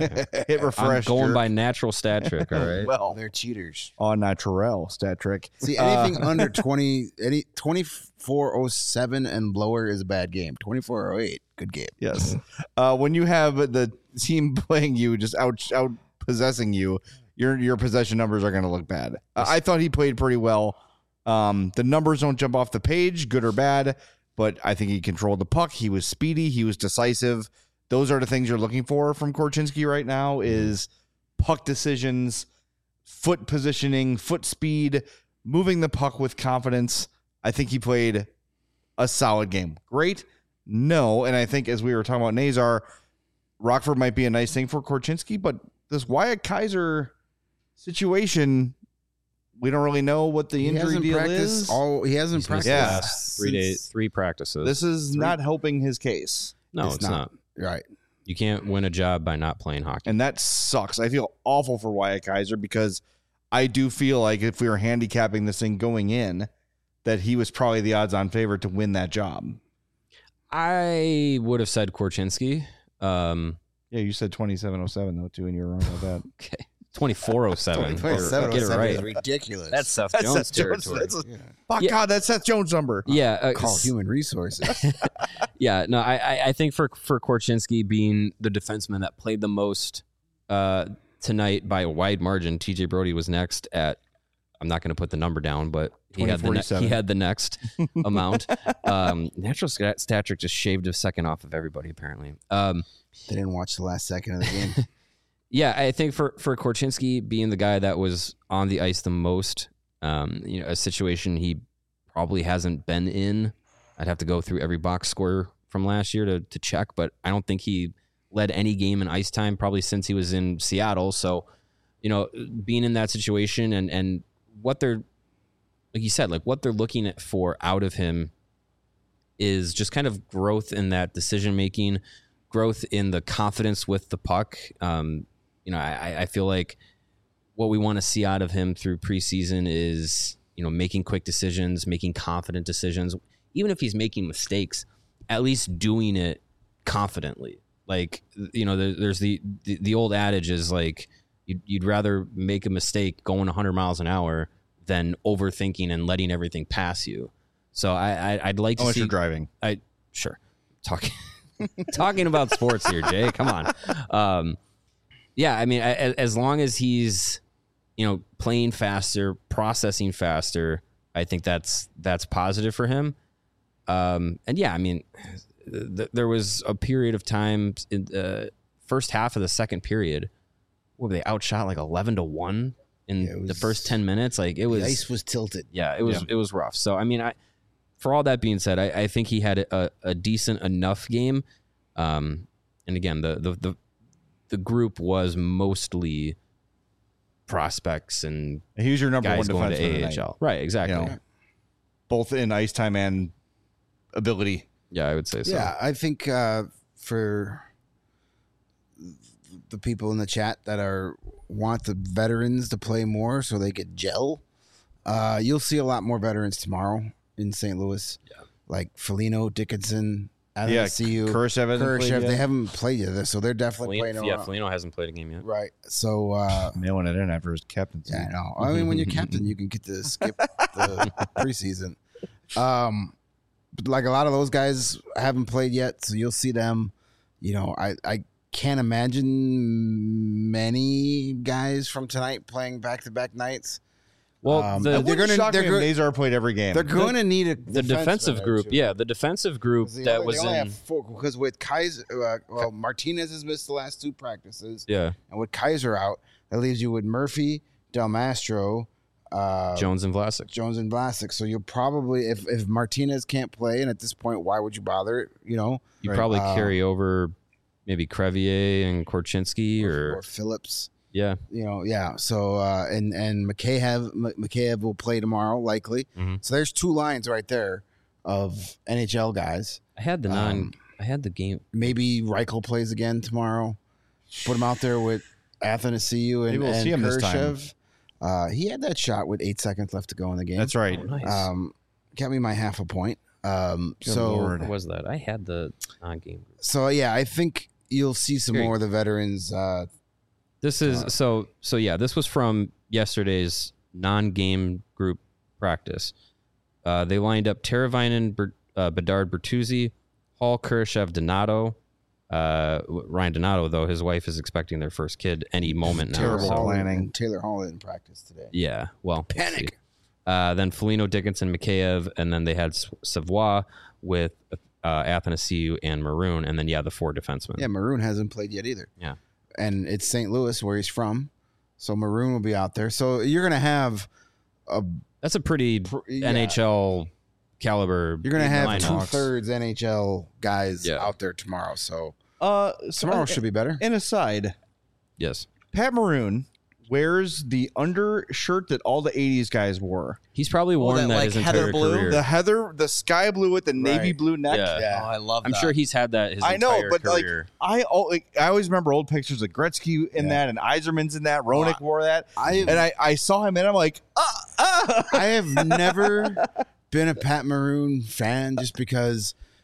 Hit refresh. I'm going jerk. by natural stat trick, all right? Well, They're cheaters. on naturel stat trick. See, Uh, anything under twenty, any twenty-four oh seven and lower is a bad game. twenty-four oh eight, good game. Yes. Uh, when you have the team playing you, just out out possessing you, your your possession numbers are going to look bad. Uh, I thought he played pretty well. Um, the numbers don't jump off the page, good or bad, but I think he controlled the puck. He was speedy. He was decisive. Those are the things you're looking for from Korchinski right now is puck decisions, foot positioning, foot speed, moving the puck with confidence. I think he played a solid game. Great? No. And I think as we were talking about Nazar, Rockford might be a nice thing for Korchinski, but this Wyatt Kaiser situation, we don't really know what the He injury hasn't deal practiced is. all. He hasn't He's missed practiced. the Yeah. last three days, three practices. This is not helping his case. no, it's it's, not. not. Right. You can't win a job by not playing hockey. And that sucks. I feel awful for Wyatt Kaiser because I do feel like if we were handicapping this thing going in, that he was probably the odds-on favorite to win that job. I would have said Korchinski. Um, Yeah, you said twenty-seven oh seven though too, and you were wrong about that. okay. twenty-four oh seven. twenty-seven oh Get it seven right. is ridiculous. That's Seth That's Jones Seth Jones. territory. That's a- yeah. Fuck Yeah. God, that's Seth Jones' number. Yeah. Uh, Call s- human resources. yeah. No, I, I, I think for, for Korchinski being the defenseman that played the most uh, tonight by a wide margin, T J Brody was next at, I'm not going to put the number down, but he had the, ne- he had the next amount. Um, natural stat- stature just shaved a second off of everybody, apparently. Um, They didn't watch the last second of the game. Yeah, I think for for Korchinski being the guy that was on the ice the most, um, you know, a situation he probably hasn't been in. I'd have to go through every box score from last year to to check, but I don't think he led any game in ice time probably since he was in Seattle. So, you know, being in that situation and and what they're like you said, like what they're looking at for out of him is just kind of growth in that decision making, growth in the confidence with the puck. Um, You know, I, I feel like what we want to see out of him through preseason is, you know, making quick decisions, making confident decisions. Even if he's making mistakes, at least doing it confidently. Like, you know, there, there's the, the the old adage is like, you'd, you'd rather make a mistake going one hundred miles an hour than overthinking and letting everything pass you. So I, I I'd like to Unless see you're driving. I sure talking talking about sports here, Jay. Come on. Um, Yeah, I mean, as, as long as he's, you know, playing faster, processing faster, I think that's that's positive for him. Um, and yeah, I mean, th- there was a period of time in the first half of the second period where they outshot like eleven to one in Yeah, it the was- first ten minutes. Like it was, The ice was tilted. yeah, it was Yeah. it was rough. So I mean, I for all that being said, I, I think he had a, a decent enough game. Um, and again, the the the the group was mostly prospects and He was your number guys one going to defenseman A tonight, H L. Right, exactly. You know, both in ice time and ability. Yeah, I would say so. Yeah, I think uh, for the people in the chat that are want the veterans to play more so they could gel, uh, you'll see a lot more veterans tomorrow in Saint Louis. Yeah. Like Foligno, Dickinson, I don't Yeah, see you. Kurashev hasn't played Kurashev, yet. they haven't played yet, so they're definitely Foligno, playing. yeah, around. Foligno hasn't played a game yet. Right. So, uh, Mailing it in after his captaincy. yeah, I know. I mean, when you're captain, you can get to skip the preseason. Um, but like a lot of those guys haven't played yet, so you'll see them. You know, I, I can't imagine many guys from tonight playing back to back nights. Well, Um, the, they're They're gonna- going to. they're go- Nazar played every game. They're going to need a the defenseman defensive there, group, too. yeah, the defensive group They that only- was they only in, have four, because with Kaiser, uh, well, Martinez has missed the last two practices, yeah, and with Kaiser out, that leaves you with Murphy, Del Mastro, uh, Jones and Vlasic. Jones and Vlasic. So you'll probably, if, if Martinez can't play, and at this point, why would you bother? You know, You Right. probably Um, carry over maybe Crevier and Korchinski or, or, or Phillips. yeah, You know, yeah. So uh, and and McKayev McKayev will play tomorrow likely. Mhm. So there's two lines right there of N H L guys. I had the non, Um, I had the game. Maybe Reichel plays again tomorrow. Put him out there with Athanasiou and, Maybe we'll and see him this time. Kurashev. Uh, he had that shot with eight seconds left to go in the game. That's right. Oh, nice. Um, got me my half a point. Um, Good so Lord. What was that? I had the non-game. so yeah, I think you'll see some Here you- more of the veterans. Uh, This is Uh, so so yeah, this was from yesterday's non-game group practice. Uh, they lined up Teravainen, Ber, uh, Bedard, Bertuzzi, Hall, Kurashev, Donato. Uh, Ryan Donato, though, his wife is expecting their first kid any moment now. Terrible so- Hall planning. and Taylor Hall in practice today. Yeah, well, we'll Panic. see. Uh, then Foligno, Dickinson, Mikheyev, and then they had S- Savoie with uh, Athanasiou and Maroon, and then yeah, the four defensemen. Yeah, Maroon hasn't played yet either. Yeah. And it's Saint Louis where he's from. So Maroon will be out there. So you're going to have a That's a pretty Pr- yeah. N H L caliber. you're going to have lineup. two thirds N H L guys Yeah. out there tomorrow. So Uh, so tomorrow an- should be better. An aside, Yes, Pat Maroon wears the undershirt that all the eighties guys wore. he's probably worn that, that, like, his heather entire blue? career. The heather, the sky blue with the navy Right. blue neck. Yeah. Yeah. Oh, I love I'm that. sure he's had that his I know, entire but like career. I, al- like, I always remember old pictures of Gretzky in Yeah. that, and Yzerman's in that. Roenick Oh, wore that, I and I, I saw him, and I'm like, ah, ah. I have never been a Pat Maroon fan just because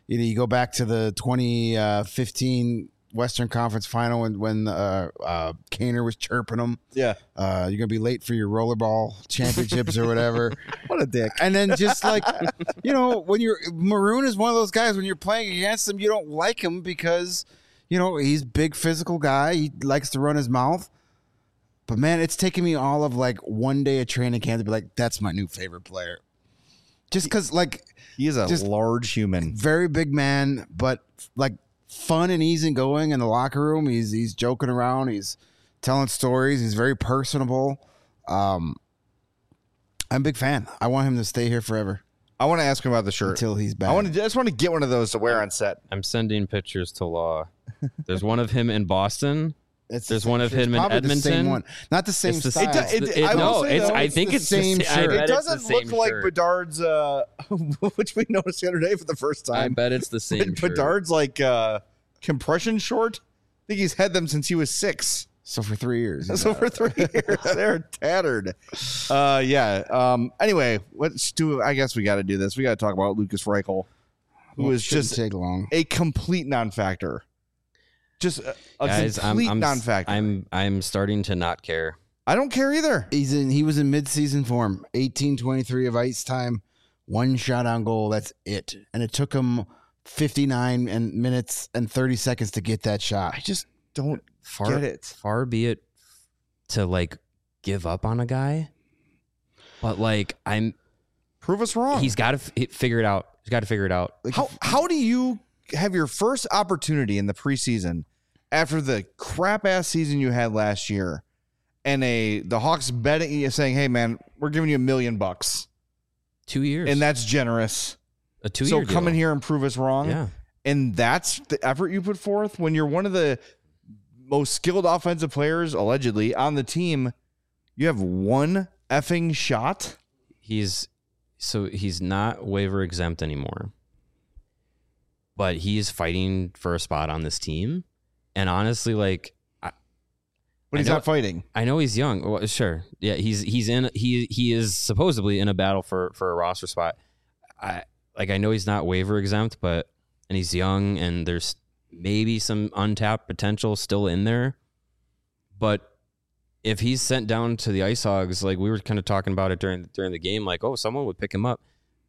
you know, you go back to the twenty fifteen Western Conference Final when when uh, uh, Kaner was chirping him. Yeah, uh, you're gonna be late for your rollerball championships or whatever. What a dick! And then just like you know, when you're Maroon is one of those guys when you're playing against him, you don't like him because you know he's a big physical guy. He likes to run his mouth. But man, it's taken me all of like one day of training camp to be like, that's my new favorite player. Just because like he is a large human, very big man, but like. Fun and easygoing in the locker room. He's he's joking around. He's telling stories. He's very personable. Um, I'm a big fan. I want him to stay here forever. I want to ask him about the shirt until he's back. I want to. I just want to get one of those to wear on set. I'm sending pictures to Law. There's one of him in Boston. It's There's the one of him in Edmonton. The same one. Not the same it's the, style. It, it, it, I no, say, it's. Though, I it's think the it's same the shirt. It doesn't the look like shirt. Bedard's, uh, which we noticed the other day for the first time. I bet it's the same. Bedard's like. Uh, compression short. I think he's had them since he was six. So for three years. So for three years, they're tattered. Uh, yeah. Um. Anyway, let's do. I guess we got to do this. We got to talk about Lukas Reichel, who well, is just take long. a complete non-factor. Just a, a Guys, complete I'm, I'm, non-factor. I'm I'm starting to not care. I don't care either. He's in. He was in mid-season form. eighteen twenty-three of ice time, one shot on goal. That's it. And it took him fifty-nine and minutes and thirty seconds to get that shot. I just don't far, get it. Far be it to like give up on a guy, but like I'm prove us wrong. He's got to f- figure it out. He's got to figure it out. Like, how how do you have your first opportunity in the preseason after the crap ass season you had last year, and a the Hawks betting you saying, "Hey man, we're giving you a million bucks, two years," and that's generous. A two so year come deal. in here and prove us wrong. Yeah. And that's the effort you put forth when you're one of the most skilled offensive players, allegedly, on the team. You have one effing shot. He's so he's not waiver exempt anymore, but he's fighting for a spot on this team. And honestly, like, I, but he's I know, not fighting. I know he's young. Well, sure, yeah, he's he's in he he is supposedly in a battle for for a roster spot. I. Like, I know he's not waiver exempt, but, and he's young, and there's maybe some untapped potential still in there. But if he's sent down to the Ice Hogs, like we were kind of talking about it during during the game, like, oh, someone would pick him up.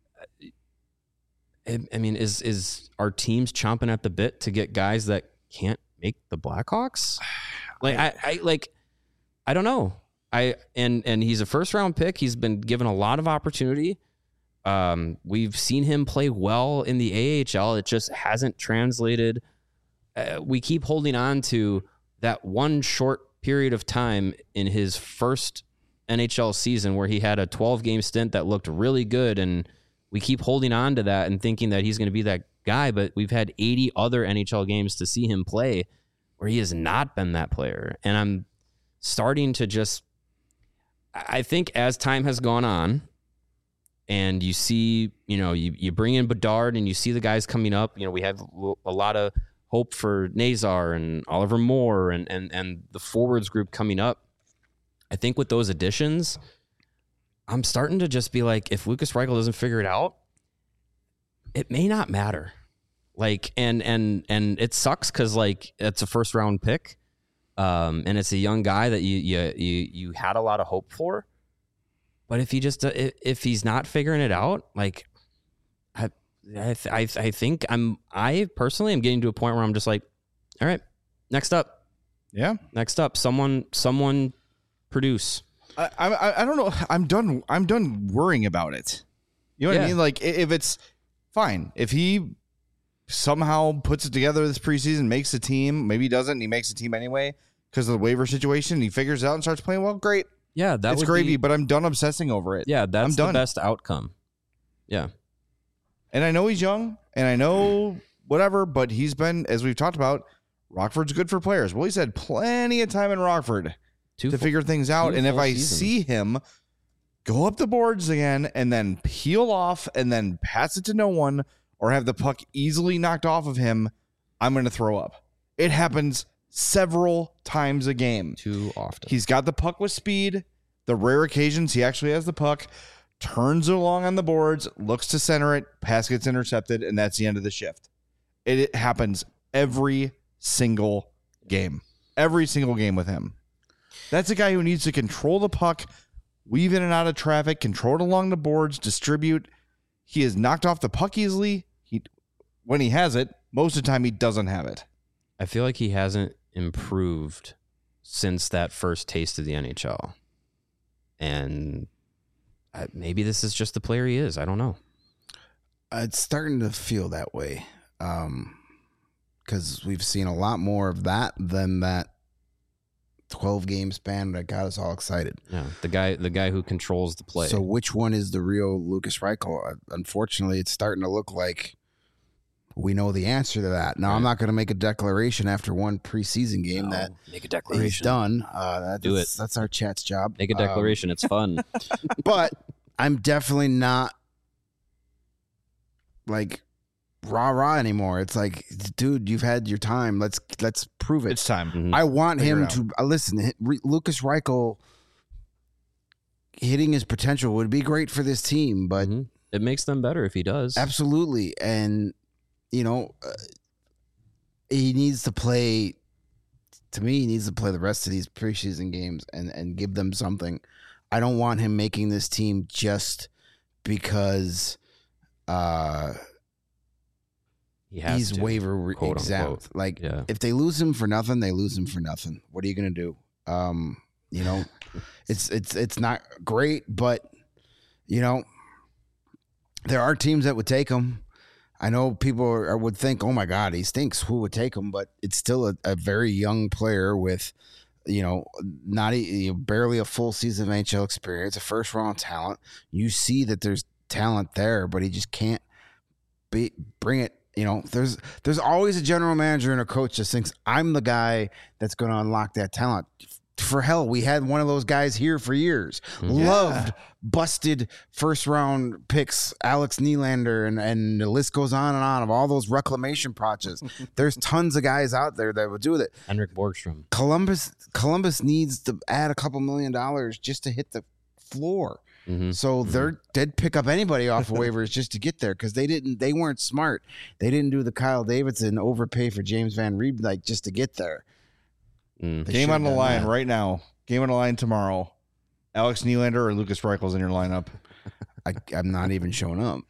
I, I mean, is is our teams chomping at the bit to get guys that can't make the Blackhawks? Like, I, I like, I don't know. I and and he's a first round pick. He's been given a lot of opportunity. Um, we've seen him play well in the A H L. It just hasn't translated. Uh, we keep holding on to that one short period of time in his first N H L season where he had a twelve game stint that looked really good. And we keep holding on to that and thinking that he's going to be that guy. But we've had eighty other N H L games to see him play where he has not been that player. And I'm starting to just, I think as time has gone on, and you see, you know, you, you bring in Bedard and you see the guys coming up. You know, we have a lot of hope for Nazar and Oliver Moore and and and the forwards group coming up. I think with those additions, I'm starting to just be like, if Lukas Reichel doesn't figure it out, it may not matter. Like, and and and it sucks because like it's a first round pick, um, and it's a young guy that you you you you had a lot of hope for. But if he just if he's not figuring it out, like I I I think I'm I personally am getting to a point where I'm just like, all right, next up, yeah, next up, someone someone produce. I I I don't know. I'm done. I'm done worrying about it. You know what Yeah. I mean? Like if it's fine, if he somehow puts it together this preseason, makes the team, maybe he doesn't, and he makes the team anyway because of the waiver situation. And he figures it out and starts playing well. Great. Yeah, that it's would gravy, be, but I'm done obsessing over it. Yeah, that's I'm done. the best outcome. Yeah. And I know he's young, and I know whatever, but he's been, as we've talked about, Rockford's good for players. Well, he's had plenty of time in Rockford Two to full, figure things out. And if I seasons. see him go up the boards again and then peel off and then pass it to no one or have the puck easily knocked off of him, I'm going to throw up. It happens several times a game. Too often. He's got the puck with speed. The rare occasions he actually has the puck, turns it along on the boards, looks to center it, pass gets intercepted, and that's the end of the shift. It, it happens every single game. Every single game with him. That's a guy who needs to control the puck, weave in and out of traffic, control it along the boards, distribute. He is knocked off the puck easily. He, when he has it, most of the time he doesn't have it. I feel like he hasn't improved since that first taste of the N H L. And I, maybe this is just the player he is. I don't know. It's starting to feel that way. Um, because we've seen a lot more of that than that twelve game span that got us all excited. Yeah, the guy, the guy who controls the play. So which one is the real Lucas Reichel? Unfortunately, it's starting to look like we know the answer to that. Now, right. I'm not going to make a declaration after one preseason game no, that make a declaration. He's done. Uh, that, Do that's, it. That's our chat's job. Make a declaration. Um, it's fun. But I'm definitely not like rah rah anymore. It's like, dude, you've had your time. Let's let's prove it. It's time. Mm-hmm. I want Figure him to uh, listen. Lucas Reichel hitting his potential would be great for this team, but mm-hmm. it makes them better if he does. Absolutely, and you know, uh, he needs to play. To me, he needs to play the rest of these preseason games and and give them something. I don't want him making this team just because. Uh, He has He's to, waiver quote, exempt. unquote. Like, yeah. if they lose him for nothing, they lose him for nothing. What are you going to do? Um, you know, it's it's it's not great, but you know, there are teams that would take him. I know people are, would think, "Oh my God, he stinks." Who would take him? But it's still a, a very young player with, you know, not a, you know, barely a full season of N H L experience, a first round talent. You see that there's talent there, but he just can't be bring it. You know, there's there's always a general manager and a coach that thinks I'm the guy that's going to unlock that talent. For hell, we had one of those guys here for years. Yeah. Loved busted first round picks, Alex Nylander, and and the list goes on and on of all those reclamation projects. There's tons of guys out there that would do it. Henrik Borgstrom. Columbus Columbus needs to add a couple million dollars just to hit the floor. Mm-hmm. So mm-hmm. they're they'd pick up anybody off of waivers just to get there because they didn't they weren't smart. They didn't do the Kyle Davidson overpay for James Van Riemsdyk like just to get there. Mm. Game on the line that. right now. Game on the line tomorrow. Alex Nylander or Lucas Reichel's in your lineup. I, I'm not even showing up.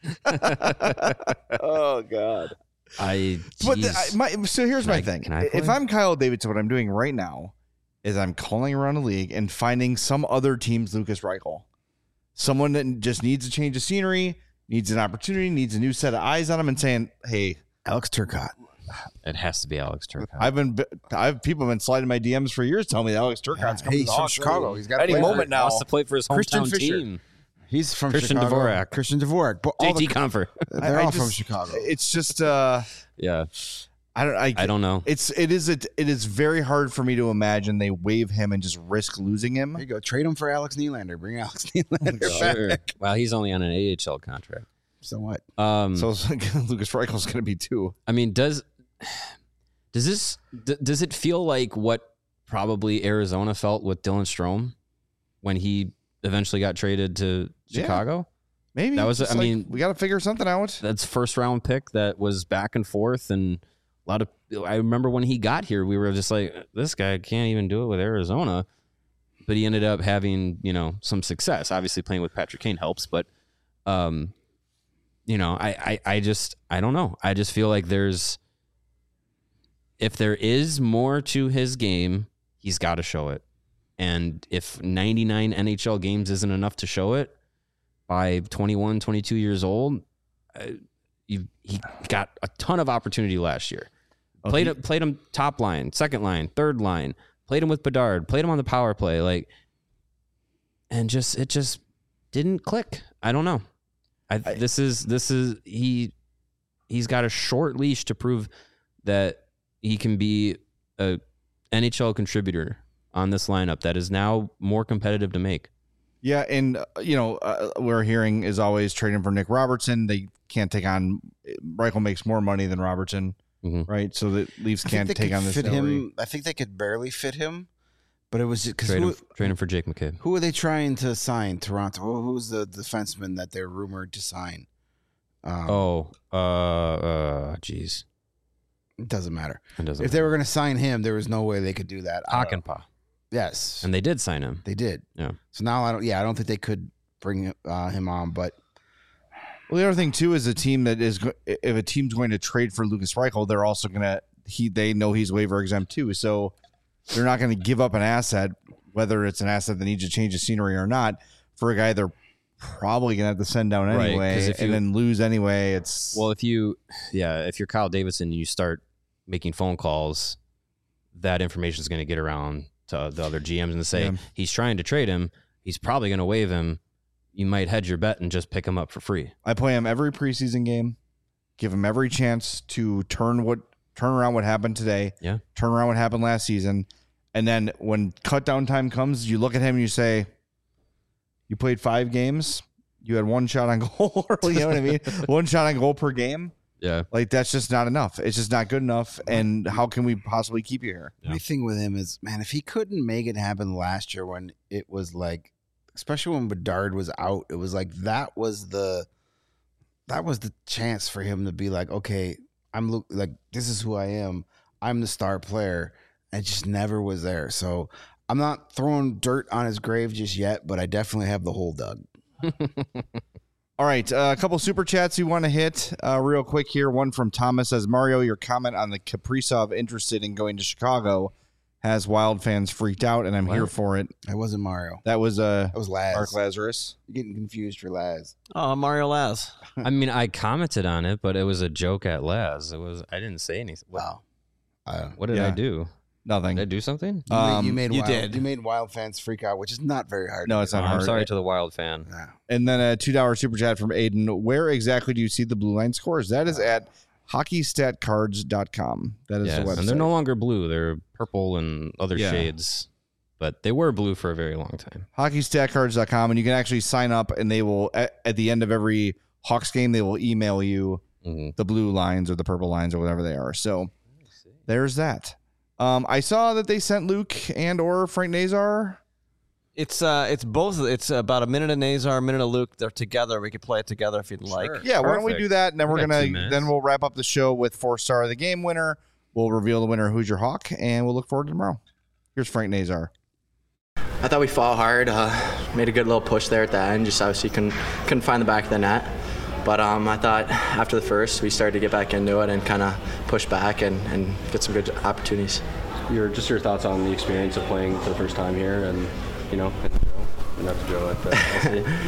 Oh God. I. But the, I, my, so here's can my I, thing. Can I if I'm Kyle Davidson, what I'm doing right now is I'm calling around the league and finding some other team's Lucas Reichel. Someone that just needs a change of scenery, needs an opportunity, needs a new set of eyes on him, and saying, "Hey, Alex Turcotte." It has to be Alex Turcotte. I've been, I've people have been sliding my D Ms for years, telling me that Alex Turcotte's coming He's to from Hawks. Chicago. He's got any moment now. Wants to play for his Christian hometown Fisher. team. He's from Christian Chicago. Dvorak. Christian Dvorak. But all J T the, Comfer. they're I- I all just- from Chicago. It's just, uh, Yeah, I don't, I, I don't know. It's it is it, it is very hard for me to imagine they waive him and just risk losing him. There you go. Trade him for Alex Nylander. Bring Alex Nylander Sure. back. Well, he's only on an A H L contract. So what? Um, So it's like, Lucas Reichel's going to be too. I mean, does does this d- does it feel like what probably Arizona felt with Dylan Strome when he eventually got traded to Yeah. Chicago? Maybe That was- It's I like, mean- we got to figure something out. That's first round pick that was back and forth, and a lot of. I remember when he got here, we were just like, this guy can't even do it with Arizona, but he ended up having you know some success. Obviously, playing with Patrick Kane helps, but um, you know, I, I I just I don't know. I just feel like there's if there is more to his game, he's got to show it, and if ninety-nine N H L games isn't enough to show it by twenty-one, twenty-two years old. Uh, You, he got a ton of opportunity last year. Oh, played he- played him top line, second line, third line. Played him with Bedard. Played him on the power play. Like, and just it just didn't click. I don't know. I, I- this is this is he. He's got a short leash to prove that he can be a N H L contributor on this lineup that is now more competitive to make. Yeah, and uh, you know, uh, we're hearing is always trading for Nick Robertson. They can't take on Reichel makes more money than Robertson, Mhm. right? So the Leafs I think can't they take could on this fit salary. him. I think they could barely fit him, but it was because Trade who, him, trade him for Jake McCabe. who are they trying to sign? Toronto. Who- Who's the defenseman that they're rumored to sign? Um, Oh, uh, uh, geez. It doesn't matter. It doesn't if matter. they were going to sign him, there was no way they could do that. Hakanpää. Yes. And they did sign him. They did. Yeah. So now I don't. Yeah, I don't think they could bring uh, him on. But well, the other thing too is a team that is go- if a team's going to trade for Lucas Reichel, they're also going to he they know he's waiver exempt too, so they're not going to give up an asset, whether it's an asset that needs to change the scenery or not, for a guy they're probably going to have to send down Right, anyway, 'cause if and you- then lose anyway. It's Well, if you, yeah, if you're Kyle Davidson and you start making phone calls, that information is going to get around to the other G Ms and say Yeah. he's trying to trade him. He's probably going to waive him. You might hedge your bet and just pick him up for free. I play him every preseason game, give him every chance to turn what turn around what happened today, Yeah. turn around what happened last season, and then when cut down time comes, you look at him and you say, "You played five games, you had one shot on goal." You know what I mean? One shot on goal per game. Yeah. Like that's just not enough. It's just not good enough. And how can we possibly keep you here? Yeah. my thing with him is, man, if he couldn't make it happen last year when it was like, especially when Bedard was out, it was like that was the that was the chance for him to be like, okay, I'm lo- like this is who I am. I'm the star player. And it just never was there. So I'm not throwing dirt on his grave just yet, but I definitely have the hole dug. All right, uh, a couple super chats you want to hit uh, real quick here. One from Thomas says, Mario, your comment on the Kaprizov interested in going to Chicago has Wild fans freaked out, and I'm What? here for it. That wasn't Mario. That was uh, That was Laz. Mark Lazarus. You're getting confused for Laz. Oh, Mario Laz. I mean, I commented on it, but it was a joke at Laz. It was. I didn't say anything. What, Wow. Uh, what did Yeah. I do? Nothing. Did I do something? you, Um, made, you made you wild, did. You made Wild fans freak out, which is not very hard. No, to it's do. not I'm hard. sorry to the Wild fan. No. And then a two dollar super chat from Aiden. Where exactly do you see the blue line scores? That is at hockey stat cards dot com. That is Yes, the website. and they're no longer blue. They're purple and other Yeah. shades, but they were blue for a very long time. hockey stat cards dot com, and you can actually sign up, and they will, at, at the end of every Hawks game, they will email you Mhm. the blue lines or the purple lines or whatever they are. So there's that. Um, I saw that they sent Luke and or Frank Nazar. It's uh, it's both. It's about a minute of Nazar, a minute of Luke. They're together. We could play it together if you'd like. Yeah, why don't we Perfect. do that? And then We we're got two gonna minutes. then we'll wrap up the show with four star of the game winner. We'll reveal the winner, who's your Hawk, and we'll look forward to tomorrow. Here's Frank Nazar. I thought we fought hard, uh, made a good little push there at the end, just obviously couldn't, couldn't find the back of the net. But um, I thought after the first, we started to get back into it and kind of push back and, and get some good opportunities. Your just your thoughts on the experience of playing for the first time here, and you know, at the Joe, and not the Joe at the L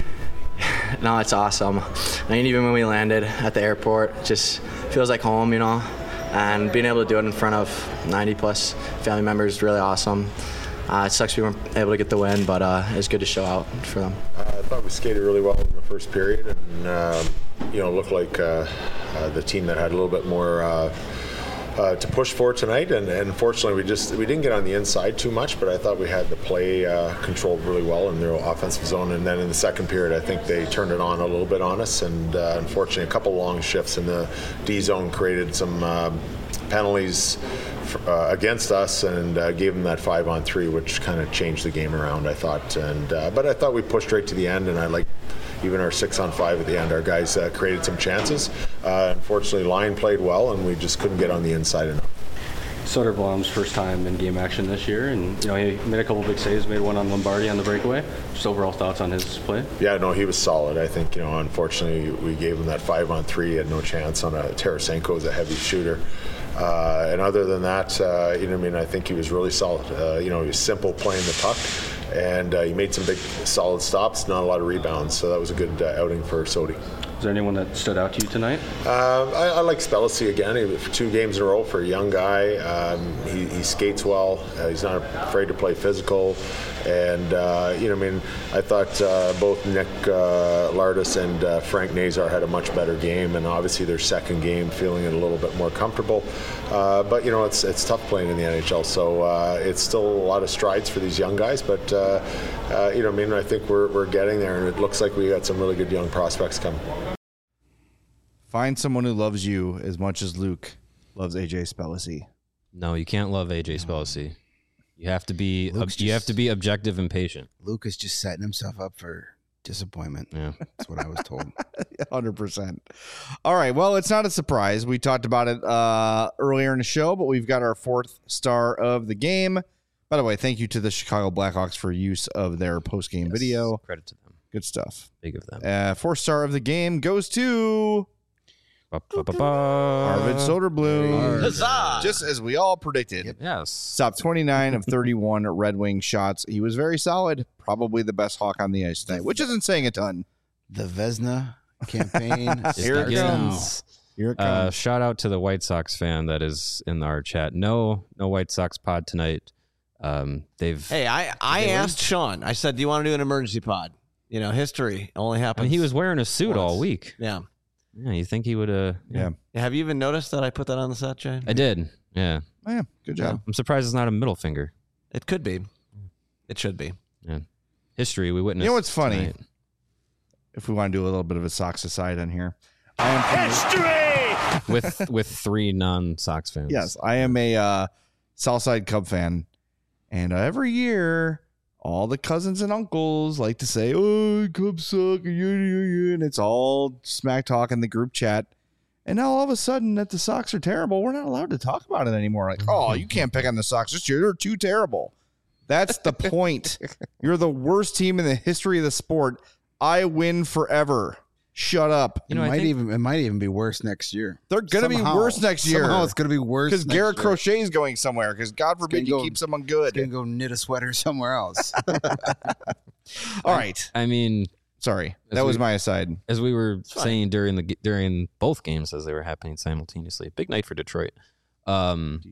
C. No, it's awesome. I mean, even when we landed at the airport, it just feels like home, you know. And being able to do it in front of ninety plus family members is really awesome. Uh, it sucks we weren't able to get the win, but uh, it was good to show out for them. Uh, I thought we skated really well in the first period, and um, you know, looked like uh, uh, the team that had a little bit more uh, uh, to push for tonight. And, and unfortunately, we just we didn't get on the inside too much. But I thought we had the play uh, controlled really well in their offensive zone. And then in the second period, I think they turned it on a little bit on us. And uh, unfortunately, a couple long shifts in the D zone created some uh, penalties Uh, against us, and uh, gave them that five on three, which kind of changed the game around, I thought. And uh, but I thought we pushed right to the end, and I like even our six on five at the end. Our guys uh, created some chances. Uh, unfortunately, line played well, and we just couldn't get on the inside enough. Soderblom's first time in game action this year, and you know he made a couple big saves, made one on Lombardi on the breakaway. Just overall thoughts on his play? Yeah, no, he was solid. I think, you know, unfortunately, we gave him that five on three. He had no chance on a Tarasenko is a heavy shooter. Uh, and other than that, uh, you know, I mean, I think he was really solid. Uh, you know, he was simple playing the puck, and uh, he made some big, solid stops. Not a lot of rebounds, so that was a good uh, outing for Sodi. Is there anyone that stood out to you tonight? Uh, I, I like Spellacy again. He, for two games in a row for a young guy. Um, he, he skates well. Uh, he's not afraid to play physical. And, uh, you know, I mean, I thought uh, both Nick uh, Lardis and uh, Frank Nazar had a much better game. And obviously their second game feeling it a little bit more comfortable. Uh, but, you know, it's it's tough playing in the N H L. So uh, it's still a lot of strides for these young guys. But, uh, uh, you know, I mean, I think we're, we're getting there. And it looks like we got some really good young prospects coming. Find someone who loves you as much as Luke loves A J Spellacy. No, you can't love A J Spellacy. You have to be Luke's you have just- to be objective and patient. Luke is just setting himself up for Disappointment. Yeah. That's what I was told. one hundred percent. All right. Well, it's not a surprise. We talked about it uh, earlier in the show, but we've got our fourth star of the game. By the way, thank you to the Chicago Blackhawks for use of their post-game Yes. video. Credit to them. Good stuff. Big of them. Uh, fourth star of the game goes to Ba-ba-ba-ba. Arvid Soderblom. Huzzah! Just as we all predicted. Yes. Stopped twenty-nine of thirty-one Red Wing shots. He was very solid. Probably the best Hawk on the ice tonight, which isn't saying a ton. The Vesna campaign. Here it starts now. comes. Here it Uh, comes. shout out to the White Sox fan that is in our chat. No, no White Sox pod tonight. Um, they've. Hey, I, I asked Sean. I said, do you want to do an emergency pod? You know, history only I happens. mean, he was wearing a suit all once. week. Yeah. Yeah, you think he would? Uh, yeah. Have you even noticed that I put that on the set, Jay? I did. Yeah, Oh, yeah. Good job. I'm surprised it's not a middle finger. It could be. It should be. Yeah, history we witnessed. You know what's funny? tonight. If we want to do a little bit of a Sox aside on here, I am from with with three non-Sox fans. yes, I am a uh, Southside Cub fan, and uh, every year, all the cousins and uncles like to say, "Oh, Cubs suck," and it's all smack talk in the group chat. And now all of a sudden, that the Sox are terrible, we're not allowed to talk about it anymore. Like, oh, you can't pick on the Sox this year; they're too terrible. That's the point. You're the worst team in the history of the sport. I win forever. Shut up. You know, it I might think- even it might even be worse next year. They're going to be Somehow- worse next year. Somehow it's going to be worse Because next Garrett year. Crochet is going somewhere. Because God forbid you go- keep someone He's gonna good. go knit a sweater somewhere else. All right. I mean, Sorry. As That was we- my aside. as we were fine. saying during the during both games as they were happening simultaneously, big night for Detroit. Um,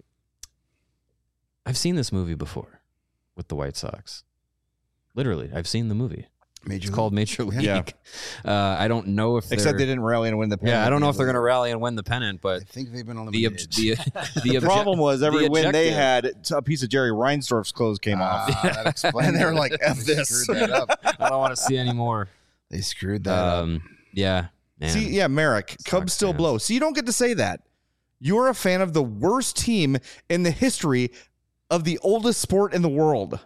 I've seen this movie before with the White Sox. Literally, I've seen the movie. Major It's League. called Major League. Yeah. Uh, I don't know if Except they they're, didn't rally and win the pennant. yeah, I don't know if they're going to rally and win the pennant, I but think they've been on the the ob- the the, The obje- problem was every the win they objective- had, a piece of Jerry Reinsdorf's clothes came off. Ah, that explains And they're it. like, F They this. screwed that up. I don't want to see any more. They screwed that up. Um, yeah, man. See, yeah, Merrick, Cubs still fans. blow. See, you don't get to say that. You're a fan of the worst team in the history of the oldest sport in the world.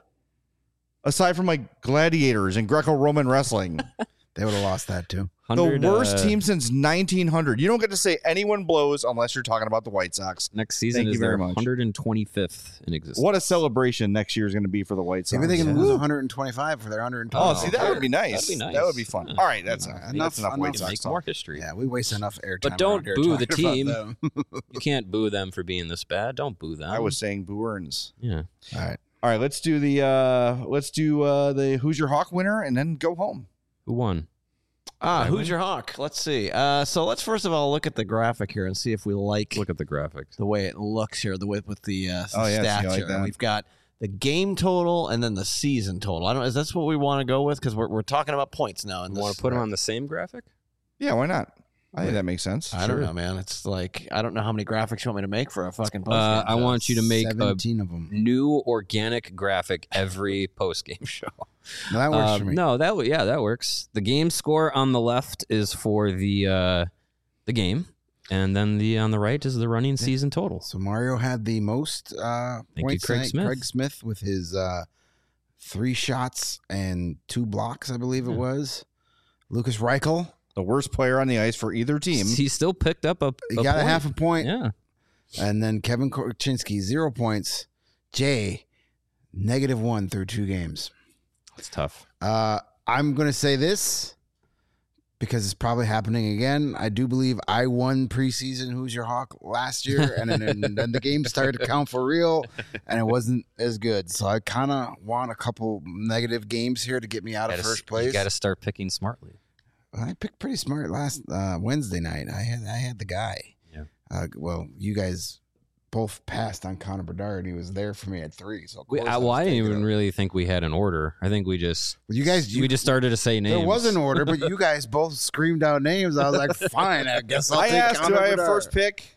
Aside from like gladiators and Greco-Roman wrestling. They would have lost that too. The one hundred, worst uh, team since nineteen hundred. You don't get to say anyone blows unless you're talking about the White Sox. Next season Thank is you very their much. one hundred twenty-fifth in existence. What a celebration next year is going to be for the White Sox. Maybe they can yeah. lose one hundred twenty-five for their one hundred twenty. Oh, see, that would be nice. That'd be nice. That would be fun. Yeah. All right, that's, Uh, enough, enough- that's enough enough White to Sox make talk. more history. Yeah, we waste enough airtime. But don't around here boo the talking about team. them. You can't boo them for being this bad. Don't boo them. I was saying Boo Earns. yeah. All right. All right, let's do the uh let's do uh the Who's Your Hawk winner and then go home. Who won? Ah, I who's win? your Hawk? Let's see. Uh, so let's first of all look at the graphic here and see if we like Look at the graphics. the way it looks here, the way with the uh, Oh, yeah, see, I stats like here. that. We've got the game total and then the season total. I don't. Is that what we want to go with? Because we're we're talking about points now. And You want to put them on the same graphic? Yeah, why not? I think that makes sense. I don't know, man. It's like I don't know how many graphics you want me to make for a fucking post. Uh, I want you to make a seventeen of them. new organic graphic every post game show. No, that works Um, for me. No, that w- yeah, that works. The game score on the left is for the uh, the game, and then the on the right is the running season total. So Mario had the most uh, you, points Craig tonight. Smith. Craig Smith with his uh, three shots and two blocks, I believe it Yeah. was. Lucas Reichel, The worst player on the ice for either team. He still picked up a, he a got a point. half a point. Yeah, And then Kevin Korchinski, zero points. Jay, negative one through two games. it's tough. Uh, I'm going to say this because it's probably happening again. I do believe I won preseason Who's Your Hawk last year, and then, and then the game started to count for real, and it wasn't as good. So I kind of want a couple negative games here to get me out of Gotta- first place. You got to start picking smartly. I picked pretty smart last uh, Wednesday night. I had I had the guy. Yeah. Uh, well, you guys both passed on Connor Bedard. He was there for me at three. So of We, course I, I well, was I didn't taking even him. really think we had an order. I think we just Well, you guys, you, we just started to say names. there was an order, but you guys both screamed out names. I was like, fine, I guess I'll I take asked, Connor do I have Bedard. first pick?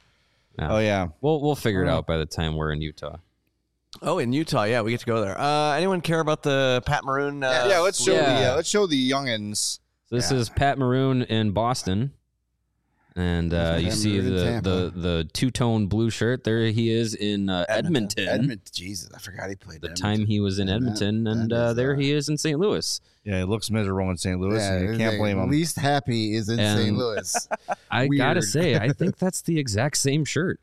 No. Oh, yeah. We'll we'll figure it Oh. out by the time we're in Utah. Oh, in Utah, yeah, we get to go there. Uh, anyone care about the Pat Maroon? Uh, yeah, let's show yeah. the uh, let's show the youngins. So this Yeah. is Pat Maroon in Boston, And uh, you see the, the the two tone blue shirt. There he is in uh, Edmonton. Edmonton. Jesus, I forgot he played. The Edmonton. time he was in Edmonton, that, and that uh, is, there uh, he is in Saint Louis. Yeah, he looks miserable in Saint Louis. Yeah, and you can't the blame him. Least happy is in And- Saint Louis. I Weird. gotta say, I think that's the exact same shirt.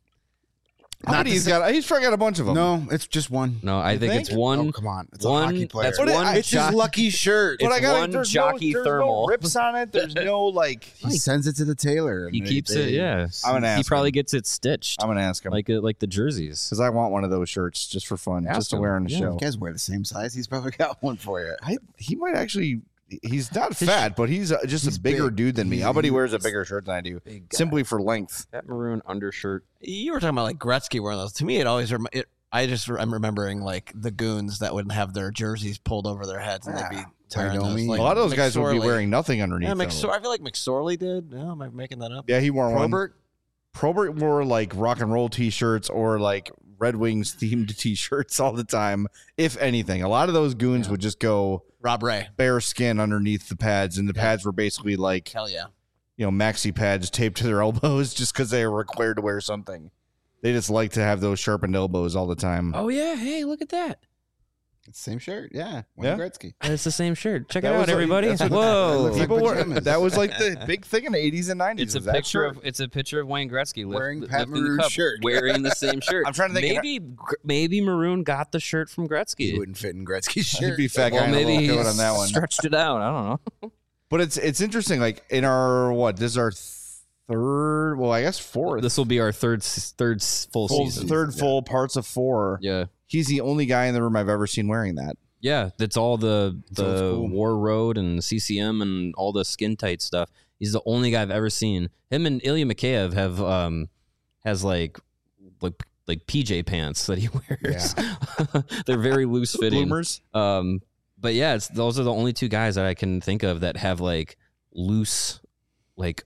How Not many the he's same- got? He's probably got a bunch of them. No, it's just one. No, I You think, think? it's one. Oh, come on. It's a one hockey player. That's But it- one. I- It's his jock- lucky shirt. It's But I got one there's jockey no, there's thermal. no rips on it. There's no like. He sends it to the tailor. He and keeps they- it. Yeah, I'm gonna he ask probably him. gets it stitched, I'm gonna ask him like uh, like the jerseys. because I want one of those shirts just for fun, Ask just to him. wear on the Yeah. show. You guys wear the same size. He's probably got one for you. I, he might actually. He's not fat, but he's uh, just he's a bigger big. dude than me. He- How about he he wears a is bigger shirt than I do, Big guy. simply for length? That maroon undershirt. You were talking about like Gretzky wearing those. To me, it always rem- it. I just I'm remembering like the goons that would have their jerseys pulled over their heads and they'd be Yeah. tearing those. Wyoming. Like a lot of those guys would be McSorley. wearing nothing underneath. Yeah, though. McSor- I feel like McSorley did. No, am I making that up? Yeah, he wore one. Probert. Probert wore like rock and roll T-shirts or like Red Wings themed T-shirts all the time. If anything, a lot of those goons Yeah. would just go Rob Ray. bare skin underneath the pads, and the Yeah. pads were basically like Hell yeah. you know maxi pads taped to their elbows just because they were required to wear something. They just like to have those sharpened elbows all the time. Oh yeah, hey, look at that. It's the same shirt. Yeah. Yeah. Wayne Gretzky. It's the same shirt. Check That it out, was like- everybody. that's what- Whoa. looks like People were, pajamas. that was like the big thing in the eighties and nineties. It's a was that picture shirt. of it's a picture of Wayne Gretzky lift, Wearing li- Pat lifting the Maroon's cup, shirt. wearing the same shirt. I'm trying to think- Maybe Gr- maybe Maroon got the shirt from He Gretzky. wouldn't fit in Gretzky's He'd shirt. be fat guy Well, in a maybe little he coat on that one. stretched it out. I don't know. But it's it's interesting. Like in our what? This is our third. Well, I guess fourth. This will be our third s- third s- full, full, season. third full parts of four. Yeah. He's the only guy in the room I've ever seen wearing that. Yeah, that's all the old the school. War Road and C C M and all the skin tight stuff. He's the only guy I've ever seen. Him and Ilya Mikheyev have um has like like like P J pants that he wears. They're very loose fitting. Bloomers. Um, but yeah, it's those are the only two guys that I can think of that have like loose like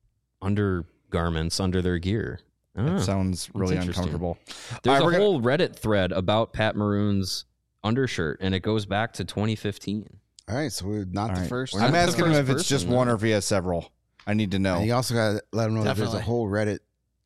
undergarments under their gear. I don't That know. sounds really interesting. uncomfortable. There's All right, a we're gonna- whole Reddit thread about Pat Maroon's undershirt, and it goes back to twenty fifteen. All right, so we're not All the right. first. We're I'm not the asking him first if it's just person, one though. or if he has several. I need to know. And you also got to let him know that there's a Definitely. whole Reddit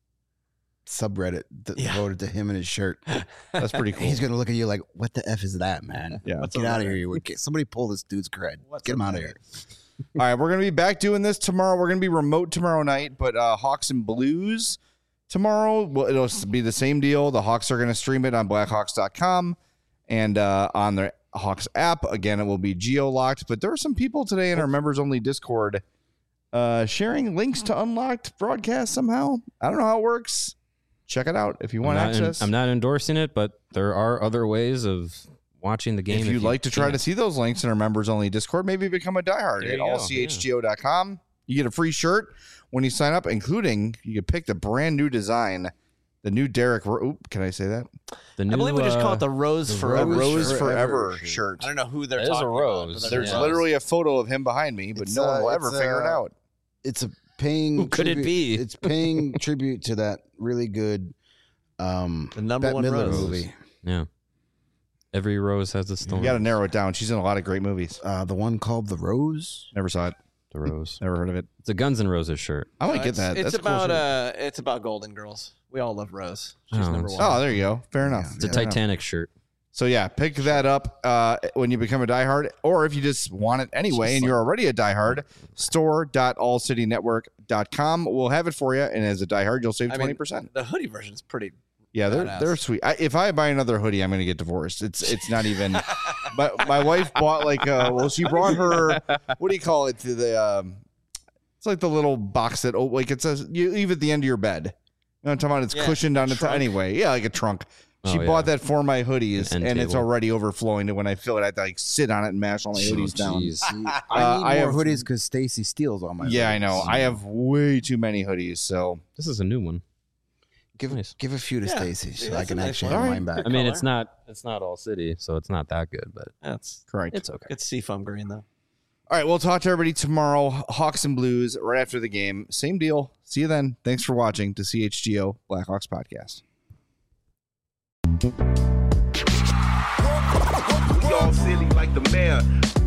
subreddit that Yeah. devoted to him and his shirt. That's pretty cool. He's gonna look at you like, "What the f is that, man? Yeah. What's Get up out of there? here! You would- Somebody pull this dude's cred. What's Get him up out of there? here." All right, we're gonna be back doing this tomorrow. We're gonna be remote tomorrow night, but uh, Hawks and Blues tomorrow. Well, it'll be the same deal. The Hawks are gonna stream it on blackhawks dot com and uh, on the Hawks app. Again, it will be geo locked. But there are some people today in our members only Discord uh, sharing links to unlocked broadcast somehow. I don't know how it works. Check it out if you want I'm not, en- access. I'm not endorsing it, but there are other ways of watching the game. if you'd like to try can't. to see those links in our members only Discord, maybe become a diehard There at you go, all c h g o dot com. You get a free shirt when you sign up, including you can pick the brand new design, the new Derek. Ro- Oop, can I say that? the new, I believe we just call uh, it the Rose The Forever. Rose shirt. Forever, shirt. shirt. I don't know who they're It is a talking rose. about. but There's a rose. literally a photo of him behind me, but It's, no one uh, will ever it's, figure it uh, out. It's a paying. Who could it tribute- be? It's paying tribute to that really good, um, The number Bette one Midler rose. movie. Yeah. Every rose has its You thorn. got to narrow it down. She's in a lot of great movies. Uh, the one called The Rose. Never saw it. The rose. Never heard of it. It's a Guns N' Roses shirt. I might Uh, get it's, that. It's That's a cool about shirt. uh, it's about Golden Girls. We all love Rose. She's Oh, number it's- one. Oh, there you go. Fair enough. It's a Fair enough. Titanic shirt. So yeah, pick that up uh, when you become a diehard, or if you just want it anyway Just and like- you're already a diehard, store dot all city network dot com will have it for you. And as a diehard, you'll save I mean, twenty percent. The hoodie version is pretty. Yeah, they're badass. they're sweet. I, if I buy another hoodie, I'm gonna get divorced. It's it's not even. But my wife bought like uh well, she brought her what do you call it to the um, it's like the little box that oh like it says you leave at the end of your bed. You know what I'm talking about? It's Yeah, cushioned on the top. trunk. Anyway, yeah, like a trunk. She Oh, yeah. bought that for my hoodies, An and end it's table. already overflowing. And when I fill it, I have to like sit on it and mash all my hoodies down. Jeez. I need Uh, I more have- hoodies because Stacy steals all my. Yeah, I hoodies. know. I have way too many hoodies. So This is a new one. Give Nice. give a few to Yeah. Stacy Yeah, so I that's can a nice actually one. have All mine right. back. I mean, color. it's not it's not all city, so it's not that good, but That's correct. it's okay. it's seafoam green though. All right, we'll talk to everybody tomorrow. Hawks and Blues right after the game. Same deal. See you then. Thanks for watching to C H G O Blackhawks podcast. We all silly like the mayor.